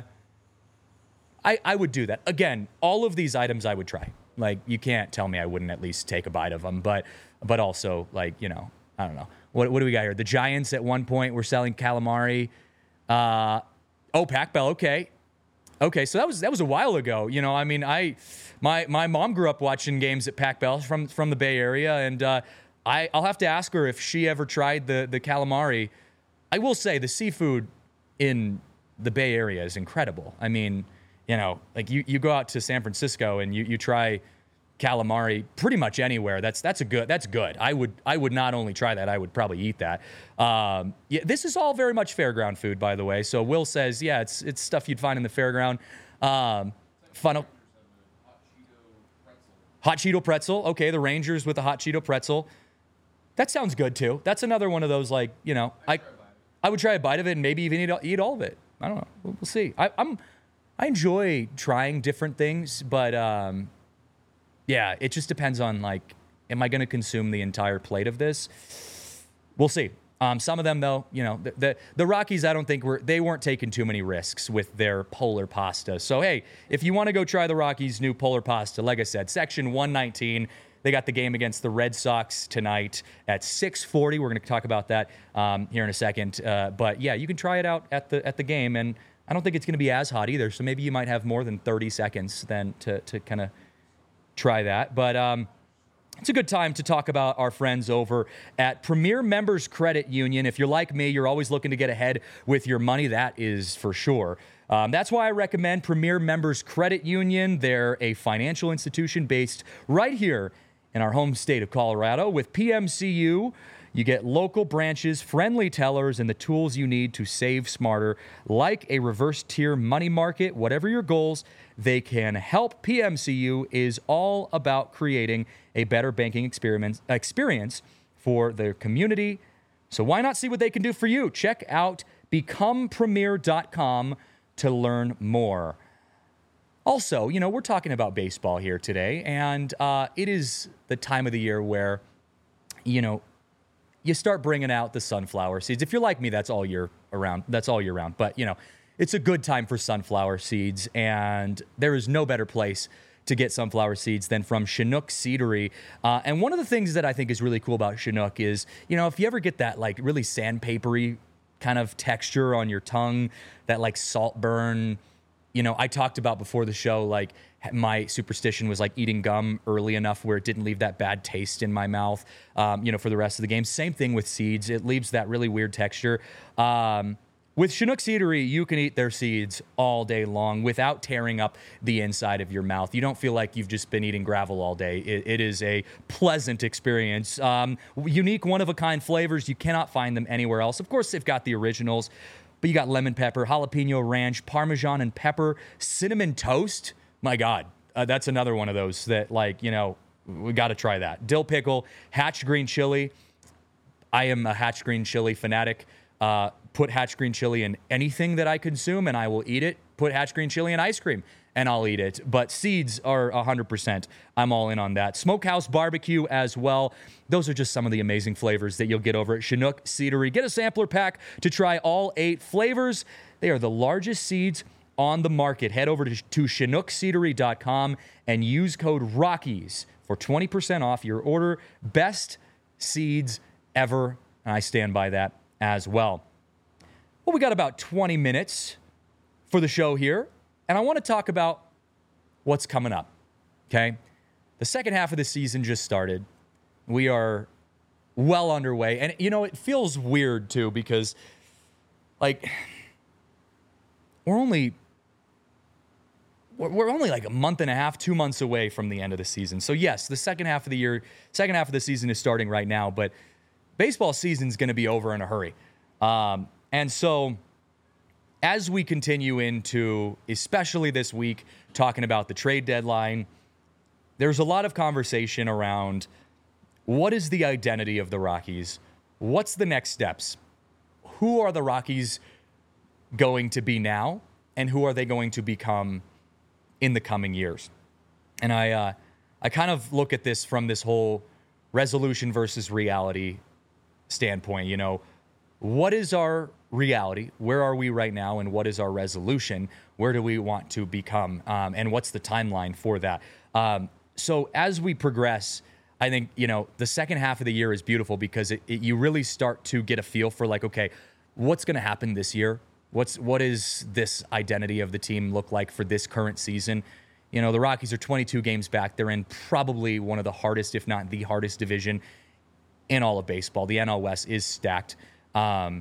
I, I would do that. Again, all of these items I would try. Like, you can't tell me I wouldn't at least take a bite of them. But but also, like, you know, I don't know. What, what do we got here? The Giants at one point were selling calamari. Uh, oh, Pac Bell. Okay. Okay, so that was that was a while ago. You know, I mean, I my my mom grew up watching games at Pac Bell from from the Bay Area, and uh, I I'll have to ask her if she ever tried the the calamari. I will say the seafood in the Bay Area is incredible. I mean, you know, like you, you go out to San Francisco and you, you try calamari pretty much anywhere. That's that's a good that's good. I would I would not only try that, I would probably eat that. Um, yeah, this is all very much fairground food, by the way. So Will says, yeah, it's it's stuff you'd find in the fairground. Um, funnel. Hot Cheeto pretzel. Okay, the Rangers with the hot Cheeto pretzel. That sounds good too. That's another one of those, like, you know, I I would try a bite of it and maybe even eat, eat all of it. I don't know. We'll, we'll see. I, I'm I enjoy trying different things, but um, yeah, it just depends on, like, am I going to consume the entire plate of this? We'll see. Um, some of them, though, you know, the, the the Rockies, I don't think were they weren't taking too many risks with their polar pasta. So hey, if you want to go try the Rockies' new polar pasta, like I said, section one nineteen. They got the game against the Red Sox tonight at six forty. We're going to talk about that um, here in a second. Uh, but yeah, you can try it out at the at the game, and I don't think it's going to be as hot either. So maybe you might have more than thirty seconds then to to kind of try that. But um, it's a good time to talk about our friends over at Premier Members Credit Union. If you're like me, you're always looking to get ahead with your money. That is for sure. Um, that's why I recommend Premier Members Credit Union. They're a financial institution based right here in our home state of Colorado. With P M C U, you get local branches, friendly tellers, and the tools you need to save smarter, like a reverse tier money market. Whatever your goals, they can help. P M C U is all about creating a better banking experience, experience for their community. So why not see what they can do for you? Check out become premier dot com to learn more. Also, you know, we're talking about baseball here today, and uh, it is the time of the year where, you know, you start bringing out the sunflower seeds. If you're like me, that's all year around. That's all year round. But, you know, it's a good time for sunflower seeds, and there is no better place to get sunflower seeds than from Chinook Seedery. Uh, and one of the things that I think is really cool about Chinook is, you know, if you ever get that, like, really sandpapery kind of texture on your tongue, that, like, salt burn. You know, I talked about before the show, like, my superstition was, like, eating gum early enough where it didn't leave that bad taste in my mouth, um, you know, for the rest of the game. Same thing with seeds. It leaves that really weird texture. Um, With Chinook Seedery, you can eat their seeds all day long without tearing up the inside of your mouth. You don't feel like you've just been eating gravel all day. It, it is a pleasant experience. Um, unique, one-of-a-kind flavors. You cannot find them anywhere else. Of course, they've got the originals, but you got lemon pepper, jalapeno ranch, Parmesan and pepper, cinnamon toast. My God, uh, that's another one of those that, like, you know, we got to try that. Dill pickle, hatch green chili. I am a hatch green chili fanatic. Uh, put hatch green chili in anything that I consume, and I will eat it. Put hatch green chili in ice cream, and I'll eat it. But seeds are one hundred percent. I'm all in on that. Smokehouse barbecue as well. Those are just some of the amazing flavors that you'll get over at Chinook Seedery. Get a sampler pack to try all eight flavors. They are the largest seeds on the market. Head over to, to chinook seedery dot com and use code Rockies for twenty percent off your order. Best seeds ever, and I stand by that as well. Well, we got about twenty minutes for the show here, and I want to talk about what's coming up, okay? The second half of the season just started. We are well underway, and, you know, it feels weird, too, because, like, we're only... We're only like a month and a half, two months away from the end of the season. So, yes, the second half of the year, second half of the season is starting right now, but baseball season is going to be over in a hurry. Um, and so as we continue into, especially this week, talking about the trade deadline, there's a lot of conversation around what is the identity of the Rockies? What's the next steps? Who are the Rockies going to be now? And who are they going to become in the coming years? And I uh, I kind of look at this from this whole resolution versus reality standpoint. You know, what is our reality? Where are we right now? And what is our resolution? Where do we want to become? Um, and what's the timeline for that? Um, so as we progress, I think, you know, the second half of the year is beautiful because it, it, you really start to get a feel for, like, okay, what's going to happen this year? What's what is this identity of the team look like for this current season? You know, the Rockies are twenty-two games back. They're in probably one of the hardest, if not the hardest division in all of baseball. The N L West is stacked. Um,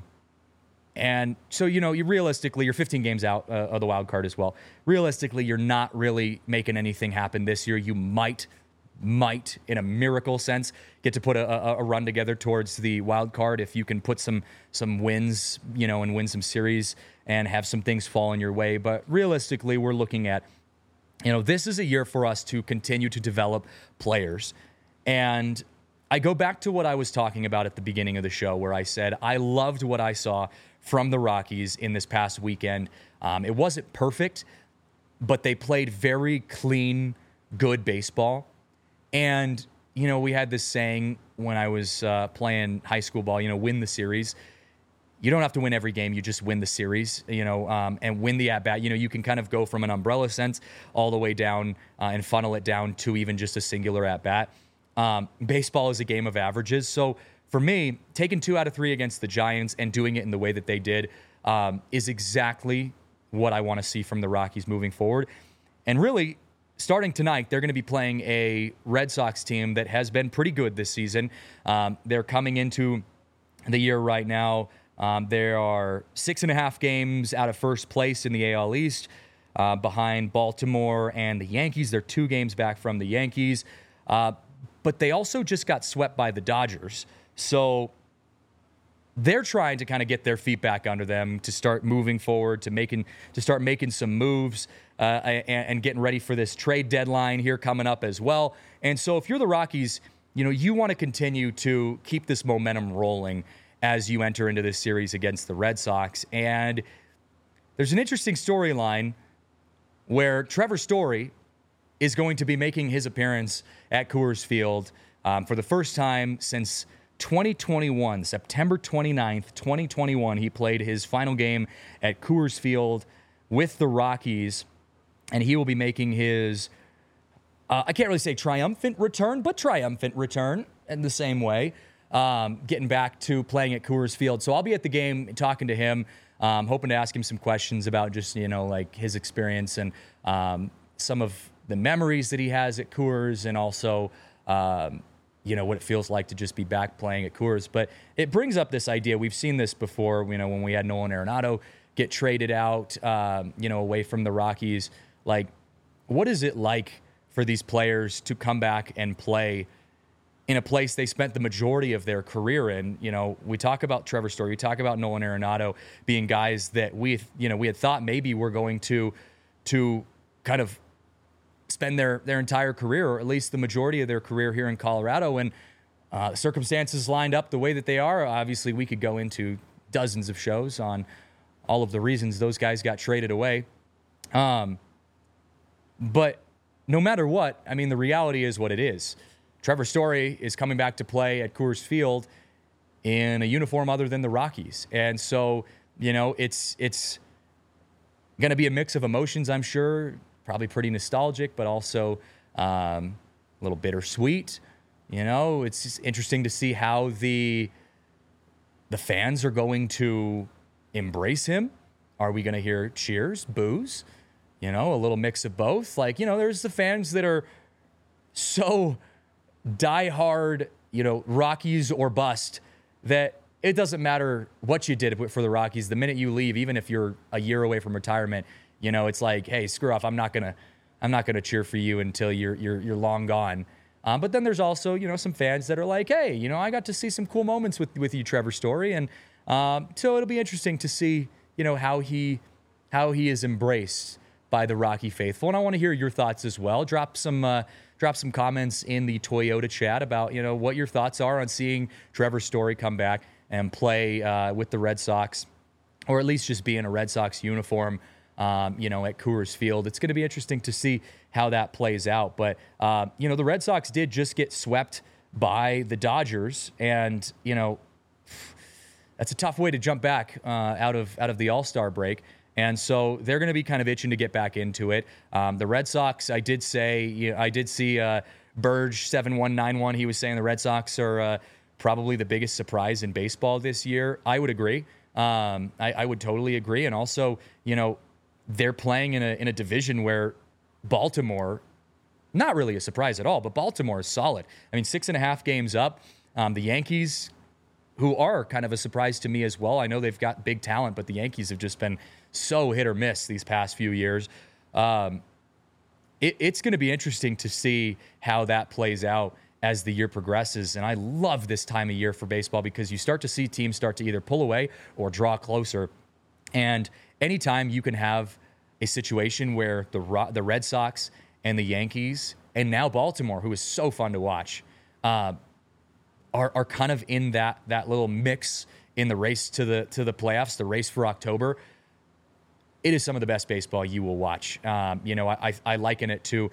and so, you know, you realistically, you're fifteen games out uh, of the wild card as well. Realistically, you're not really making anything happen this year. You might, might, in a miracle sense, get to put a, a, a run together towards the wild card if you can put some some wins, you know, and win some series and have some things fall in your way. But realistically, we're looking at, you know, this is a year for us to continue to develop players. And I go back to what I was talking about at the beginning of the show, where I said I loved what I saw from the Rockies in this past weekend. Um, it wasn't perfect, but they played very clean, good baseball. And, you know, we had this saying when I was uh, playing high school ball, you know, win the series. You don't have to win every game. You just win the series, you know, um, and win the at-bat. You know, you can kind of go from an umbrella sense all the way down uh, and funnel it down to even just a singular at-bat. Um, baseball is a game of averages. So for me, taking two out of three against the Giants and doing it in the way that they did um, is exactly what I want to see from the Rockies moving forward. And really, starting tonight, they're going to be playing a Red Sox team that has been pretty good this season. Um, they're coming into the year right now. Um, there are six and a half games out of first place in the A L East uh, behind Baltimore and the Yankees. They're two games back from the Yankees. Uh, but they also just got swept by the Dodgers. So they're trying to kind of get their feet back under them to start moving forward, to making to start making some moves uh, and, and getting ready for this trade deadline here coming up as well. And so if you're the Rockies, you know, you want to continue to keep this momentum rolling as you enter into this series against the Red Sox. And there's an interesting storyline where Trevor Story is going to be making his appearance at Coors Field um, for the first time since twenty twenty-one, September twenty-ninth, twenty twenty-one. He played his final game at Coors Field with the Rockies, and he will be making his, uh, I can't really say triumphant return, but triumphant return in the same way. Um, getting back to playing at Coors Field. So I'll be at the game talking to him, um, hoping to ask him some questions about just, you know, like his experience and um, some of the memories that he has at Coors, and also, um, you know, what it feels like to just be back playing at Coors. But it brings up this idea. We've seen this before, you know, when we had Nolan Arenado get traded out, um, you know, away from the Rockies. Like, what is it like for these players to come back and play in a place they spent the majority of their career in? You know, we talk about Trevor Story, we talk about Nolan Arenado being guys that we, you know, we had thought maybe were going to, to kind of spend their, their entire career, or at least the majority of their career here in Colorado. And uh, circumstances lined up the way that they are. Obviously, we could go into dozens of shows on all of the reasons those guys got traded away. Um, but no matter what, I mean, the reality is what it is. Trevor Story is coming back to play at Coors Field in a uniform other than the Rockies. And so, you know, it's, it's going to be a mix of emotions, I'm sure. Probably pretty nostalgic, but also um, a little bittersweet. You know, it's just interesting to see how the the fans are going to embrace him. Are we going to hear cheers, boos? You know, a little mix of both. Like, you know, there's the fans that are so diehard, you know, Rockies or bust, that it doesn't matter what you did for the Rockies. The minute you leave, even if you're a year away from retirement, you know, it's like, hey, screw off. I'm not gonna, I'm not gonna cheer for you until you're you're you're long gone. Um, but then there's also, you know, some fans that are like, hey, you know, I got to see some cool moments with with you, Trevor Story, and um, so it'll be interesting to see, you know, how he how he is embraced by the Rocky faithful. And I want to hear your thoughts as well. Drop some uh, drop some comments in the Toyota chat about, you know, what your thoughts are on seeing Trevor Story come back and play uh, with the Red Sox, or at least just be in a Red Sox uniform. Um, you know, at Coors Field. It's going to be interesting to see how that plays out. But, uh, you know, the Red Sox did just get swept by the Dodgers. And, you know, that's a tough way to jump back uh, out of out of the All-Star break. And so they're going to be kind of itching to get back into it. Um, the Red Sox, I did say, you know, I did see uh, Burge seven one nine one. He was saying the Red Sox are uh, probably the biggest surprise in baseball this year. I would agree. Um, I, I would totally agree. And also, you know, they're playing in a in a division where Baltimore, not really a surprise at all, but Baltimore is solid. I mean, six and a half games up. Um, the Yankees, who are kind of a surprise to me as well. I know they've got big talent, but the Yankees have just been so hit or miss these past few years. Um, it, it's going to be interesting to see how that plays out as the year progresses. And I love this time of year for baseball because you start to see teams start to either pull away or draw closer. And anytime you can have a situation where the the Red Sox and the Yankees, and now Baltimore, who is so fun to watch, uh, are are kind of in that that little mix in the race to the to the playoffs, the race for October, it is some of the best baseball you will watch. Um, you know, I, I liken it to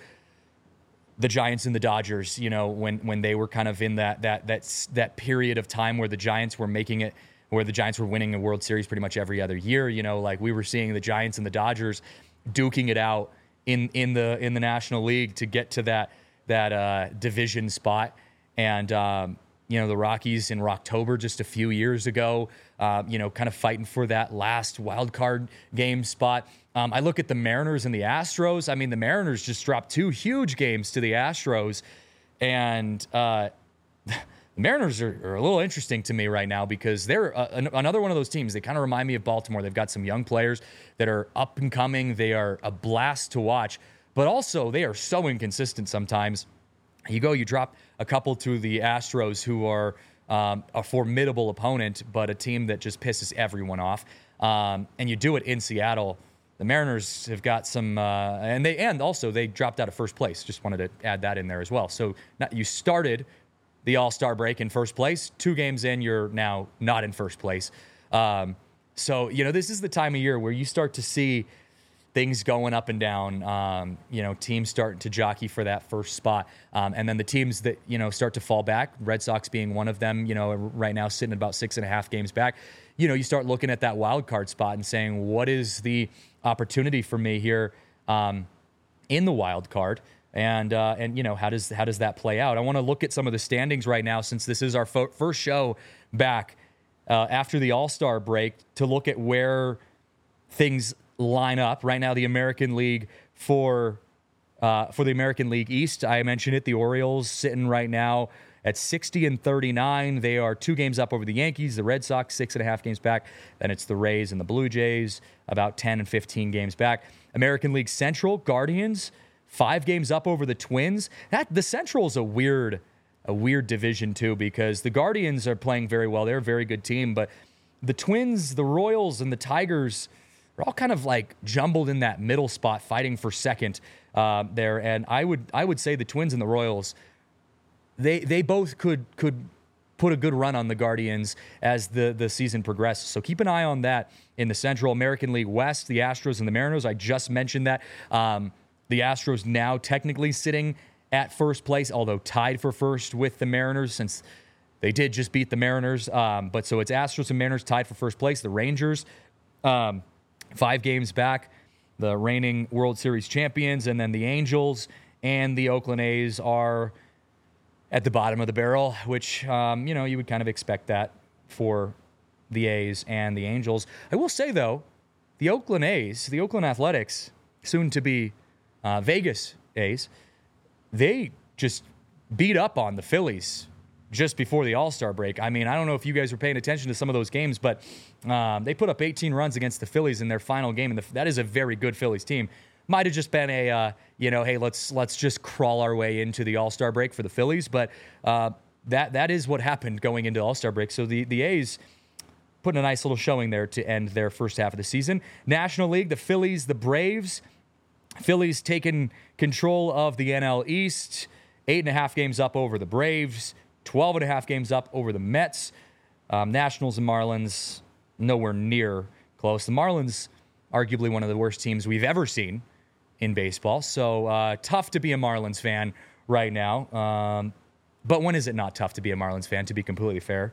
the Giants and the Dodgers. You know, when when they were kind of in that that that that period of time where the Giants were making it, where the Giants were winning a World Series pretty much every other year. You know, like we were seeing the Giants and the Dodgers duking it out in in the in the National League to get to that that uh, division spot. And um, you know, the Rockies in October just a few years ago, uh, you know, kind of fighting for that last wild card game spot. Um, I look at the Mariners and the Astros. I mean, the Mariners just dropped two huge games to the Astros, and uh, the Mariners are, are a little interesting to me right now because they're uh, an, another one of those teams. They kind of remind me of Baltimore. They've got some young players that are up and coming. They are a blast to watch, but also they are so inconsistent sometimes. You go, you drop a couple to the Astros, who are um, a formidable opponent, but a team that just pisses everyone off. Um, and you do it in Seattle. The Mariners have got some, uh, and they and also they dropped out of first place. Just wanted to add that in there as well. So not, you started the All-Star break in first place. Two games in, you're now not in first place. Um, so, you know, this is the time of year where you start to see things going up and down, um, you know, teams starting to jockey for that first spot. Um, and then the teams that, you know, start to fall back, Red Sox being one of them, you know, right now sitting at about six and a half games back, you know, you start looking at that wild card spot and saying, what is the opportunity for me here um, in the wild card? And, uh, and you know, how does how does that play out? I want to look at some of the standings right now, since this is our fo- first show back uh, after the All-Star break, to look at where things line up right now. The American League for uh, for the American League East, I mentioned it, the Orioles sitting right now at sixty and thirty-nine. They are two games up over the Yankees, the Red Sox, six and a half games back. Then it's the Rays and the Blue Jays, about ten and fifteen games back. American League Central, Guardians, five games up over the Twins. That the Central is a weird, a weird division too, because the Guardians are playing very well. They're a very good team, but the Twins, the Royals, and the Tigers are all kind of like jumbled in that middle spot, fighting for second uh, there. And I would, I would say the Twins and the Royals, they they both could could put a good run on the Guardians as the the season progresses. So keep an eye on that in the Central. American League West, the Astros and the Mariners. I just mentioned that. Um, the Astros now technically sitting at first place, although tied for first with the Mariners since they did just beat the Mariners. Um, but so it's Astros and Mariners tied for first place. The Rangers, um, five games back, the reigning World Series champions, and then the Angels and the Oakland A's are at the bottom of the barrel, which, um, you know, you would kind of expect that for the A's and the Angels. I will say, though, the Oakland A's, the Oakland Athletics, soon to be uh, Vegas A's, they just beat up on the Phillies just before the All-Star break. I mean, I don't know if you guys were paying attention to some of those games, but um, they put up eighteen runs against the Phillies in their final game, and the, that is a very good Phillies team. Might have just been a, uh, you know, hey, let's let's just crawl our way into the All-Star break for the Phillies, but uh, that that is what happened going into All-Star break. So the, the A's putting a nice little showing there to end their first half of the season. National League, the Phillies, the Braves. Phillies taking control of the N L East, eight and a half games up over the Braves, twelve and a half games up over the Mets. Um, Nationals and Marlins, nowhere near close. The Marlins, arguably one of the worst teams we've ever seen in baseball. So uh, tough to be a Marlins fan right now. Um, but when is it not tough to be a Marlins fan, to be completely fair?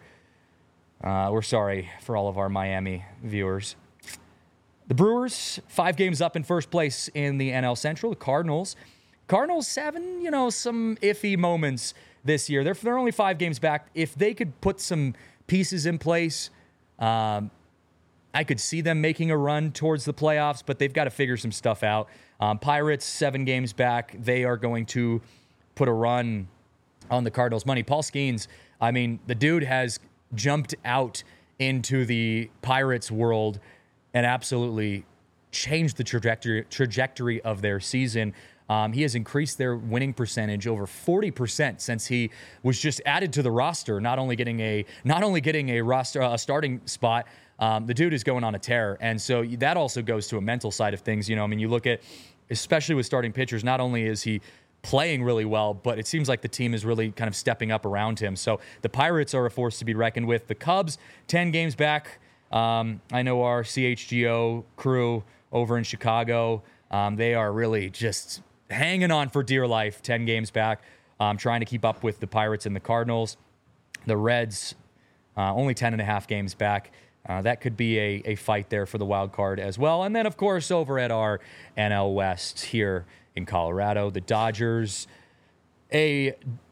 Uh, we're sorry for all of our Miami viewers. The Brewers, five games up in first place in the N L Central. The Cardinals, Cardinals having, you know, some iffy moments this year. They're, they're only five games back. If they could put some pieces in place, um, I could see them making a run towards the playoffs, but they've got to figure some stuff out. Um, Pirates, seven games back. They are going to put a run on the Cardinals' money. Paul Skeens, I mean, the dude has jumped out into the Pirates world and absolutely changed the trajectory trajectory of their season. Um, he has increased their winning percentage over forty percent since he was just added to the roster. Not only getting a not only getting a roster a starting spot, um, the dude is going on a tear, and so that also goes to a mental side of things. You know, I mean, you look at, especially with starting pitchers, not only is he playing really well, but it seems like the team is really kind of stepping up around him. So the Pirates are a force to be reckoned with. The Cubs, ten games back. Um, I know our C H G O crew over in Chicago, um, they are really just hanging on for dear life, ten games back, um, trying to keep up with the Pirates and the Cardinals. The Reds, uh, only ten and a half games back. Uh, that could be a, a fight there for the wild card as well. And then, of course, over at our N L West here in Colorado, the Dodgers, a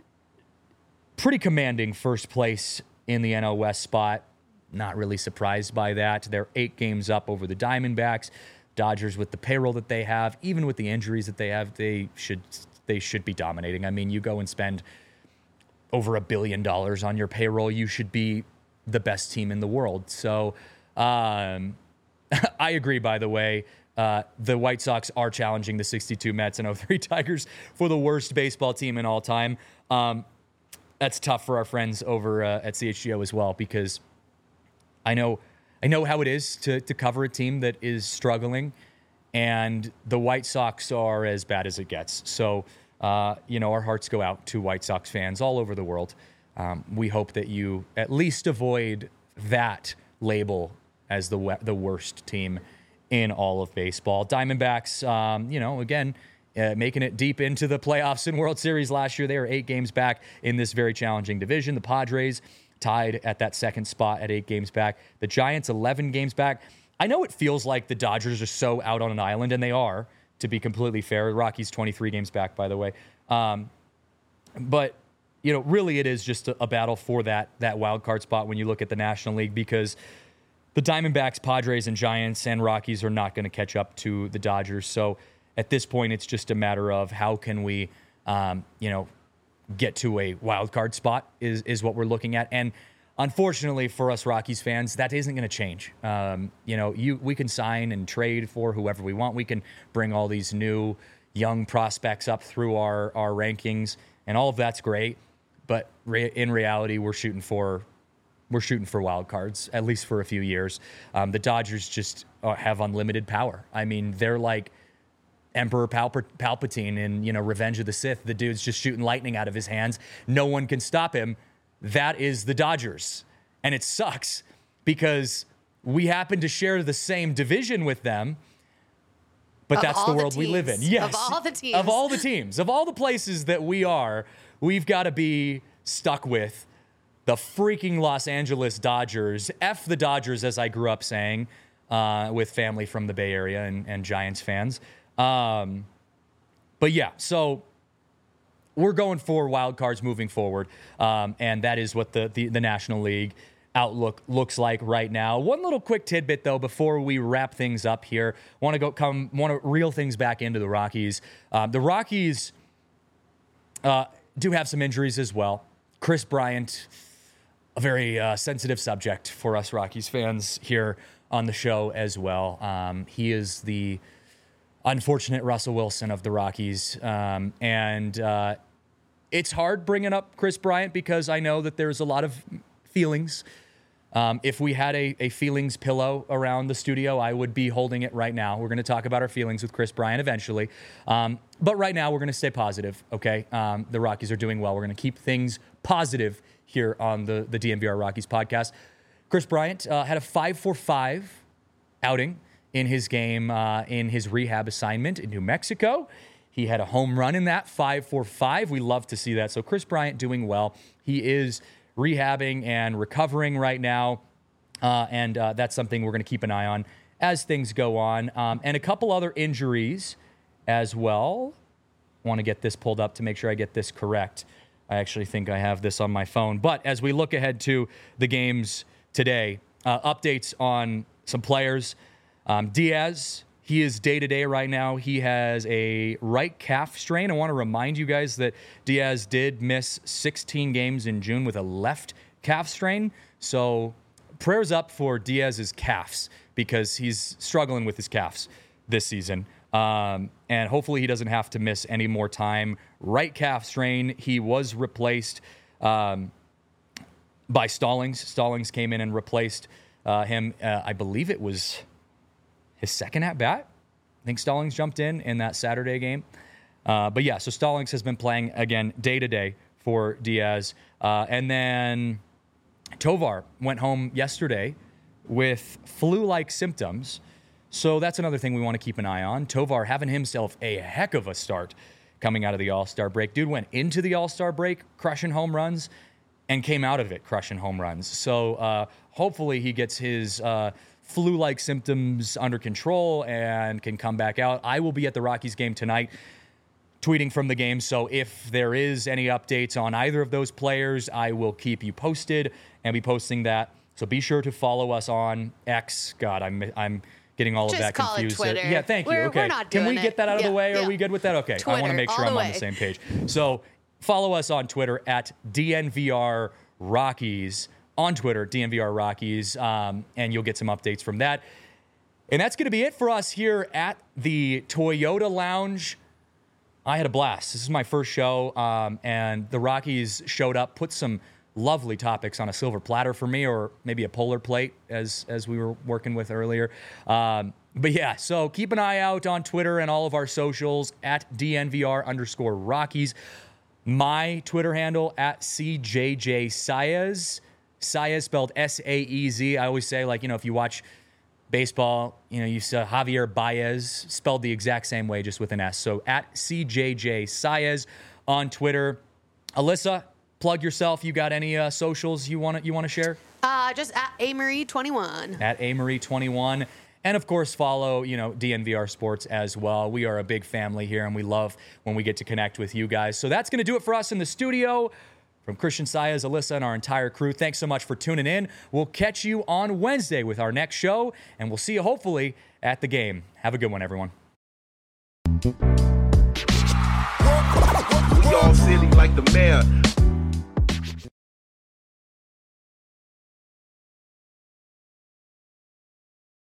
pretty commanding first place in the N L West spot. Not really surprised by that. They're eight games up over the Diamondbacks. Dodgers, with the payroll that they have, even with the injuries that they have, they should they should be dominating. I mean, you go and spend over a billion dollars on your payroll, you should be the best team in the world. So um, I agree, by the way. Uh, the White Sox are challenging the sixty-two Mets and oh three Tigers for the worst baseball team in all time. Um, that's tough for our friends over uh, at C H G O as well, because I know I know how it is to to cover a team that is struggling, and the White Sox are as bad as it gets. So, uh, you know, our hearts go out to White Sox fans all over the world. Um, we hope that you at least avoid that label as the we- the worst team in all of baseball. Diamondbacks, um, you know, again, uh, making it deep into the playoffs in World Series last year. They are eight games back in this very challenging division. The Padres tied at that second spot at eight games back. The Giants, eleven games back. I know it feels like the Dodgers are so out on an island, and they are, to be completely fair. The Rockies, twenty-three games back, by the way. Um, but, you know, really it is just a, a battle for that, that wild card spot when you look at the National League, because the Diamondbacks, Padres, and Giants and Rockies are not going to catch up to the Dodgers. So at this point, it's just a matter of how can we, um, you know, get to a wild card spot is is what we're looking at. And unfortunately for us Rockies fans, that isn't going to change. Um, you know, you we can sign and trade for whoever we want. We can bring all these new young prospects up through our, our rankings, and all of that's great. But re- in reality, we're shooting for we're shooting for wild cards, at least for a few years. Um, the Dodgers just uh, have unlimited power. I mean, they're like Emperor Palp- Palpatine in, you know, Revenge of the Sith. The dude's just shooting lightning out of his hands. No one can stop him. That is the Dodgers. And it sucks because we happen to share the same division with them, but of that's the world the we live in. Yes. Of all the teams. Of all the teams. Of all the places that we are, we've got to be stuck with the freaking Los Angeles Dodgers. F the Dodgers, as I grew up saying, uh, with family from the Bay Area and, and Giants fans. Um, but yeah, so we're going for wild cards moving forward. Um, and that is what the, the, the National League outlook looks like right now. One little quick tidbit though, before we wrap things up here, want to go come, want to reel things back into the Rockies. Um, the Rockies, uh, do have some injuries as well. Kris Bryant, a very uh, sensitive subject for us Rockies fans here on the show as well. Um, he is the unfortunate Russell Wilson of the Rockies. Um, and uh, it's hard bringing up Kris Bryant because I know that there's a lot of feelings. Um, if we had a, a feelings pillow around the studio, I would be holding it right now. We're going to talk about our feelings with Kris Bryant eventually. Um, but right now, we're going to stay positive, okay? Um, the Rockies are doing well. We're going to keep things positive here on the, the D N V R Rockies podcast. Kris Bryant uh, had a five for five outing in his game, uh, in his rehab assignment in New Mexico. He had a home run in that, five for five. We love to see that. So Kris Bryant doing well. He is rehabbing and recovering right now, uh, and uh, that's something we're going to keep an eye on as things go on. Um, and a couple other injuries as well. Want to get this pulled up to make sure I get this correct. I actually think I have this on my phone. But as we look ahead to the games today, uh, updates on some players. Um, Diaz, he is day-to-day right now. He has a right calf strain. I want to remind you guys that Diaz did miss sixteen games in June with a left calf strain. So prayers up for Diaz's calves because he's struggling with his calves this season. Um, and hopefully he doesn't have to miss any more time. Right calf strain. He was replaced um, by Stallings. Stallings came in and replaced uh, him. Uh, I believe it was his second at bat. I think Stallings jumped in in that Saturday game. Uh, but yeah, so Stallings has been playing again day to day for Diaz. Uh, and then Tovar went home yesterday with flu-like symptoms. So that's another thing we want to keep an eye on. Tovar having himself a heck of a start coming out of the All-Star break. Dude went into the All-Star break crushing home runs and came out of it crushing home runs. So uh, hopefully he gets his uh, flu-like symptoms under control and can come back out. I will be at the Rockies game tonight, tweeting from the game. So if there is any updates on either of those players, I will keep you posted and be posting that. So be sure to follow us on X. God, I'm I'm getting all Just of that call confused. it Twitter. Yeah, thank you. We're, okay. we're not Can doing we get that out of yeah, the way? yeah. Are we good with that? Okay. Twitter, I want to make sure all I'm the on way. the same page. So follow us on Twitter at D N V R Rockies. On Twitter, D N V R Rockies, um, and you'll get some updates from that. And that's going to be it for us here at the Toyota Lounge. I had a blast. This is my first show, um, and the Rockies showed up, put some lovely topics on a silver platter for me, or maybe a polar plate, as as we were working with earlier. Um, but yeah, so keep an eye out on Twitter and all of our socials at D N V R underscore Rockies. My Twitter handle at C J J Saez. Saez spelled S A E Z. I always say, like, you know, if you watch baseball, you know, you saw Javier Baez spelled the exact same way, just with an S. So at C J J Saez on Twitter. Alyssa, plug yourself. You got any uh, socials you want to you want to share? Uh, just at A Marie twenty-one. At A Marie twenty-one. And of course, follow, you know, D N V R Sports as well. We are a big family here, and we love when we get to connect with you guys. So that's going to do it for us in the studio. From Christian Saez, Alyssa, and our entire crew, thanks so much for tuning in. We'll catch you on Wednesday with our next show, and we'll see you hopefully at the game. Have a good one, everyone. We all silly like the mayor.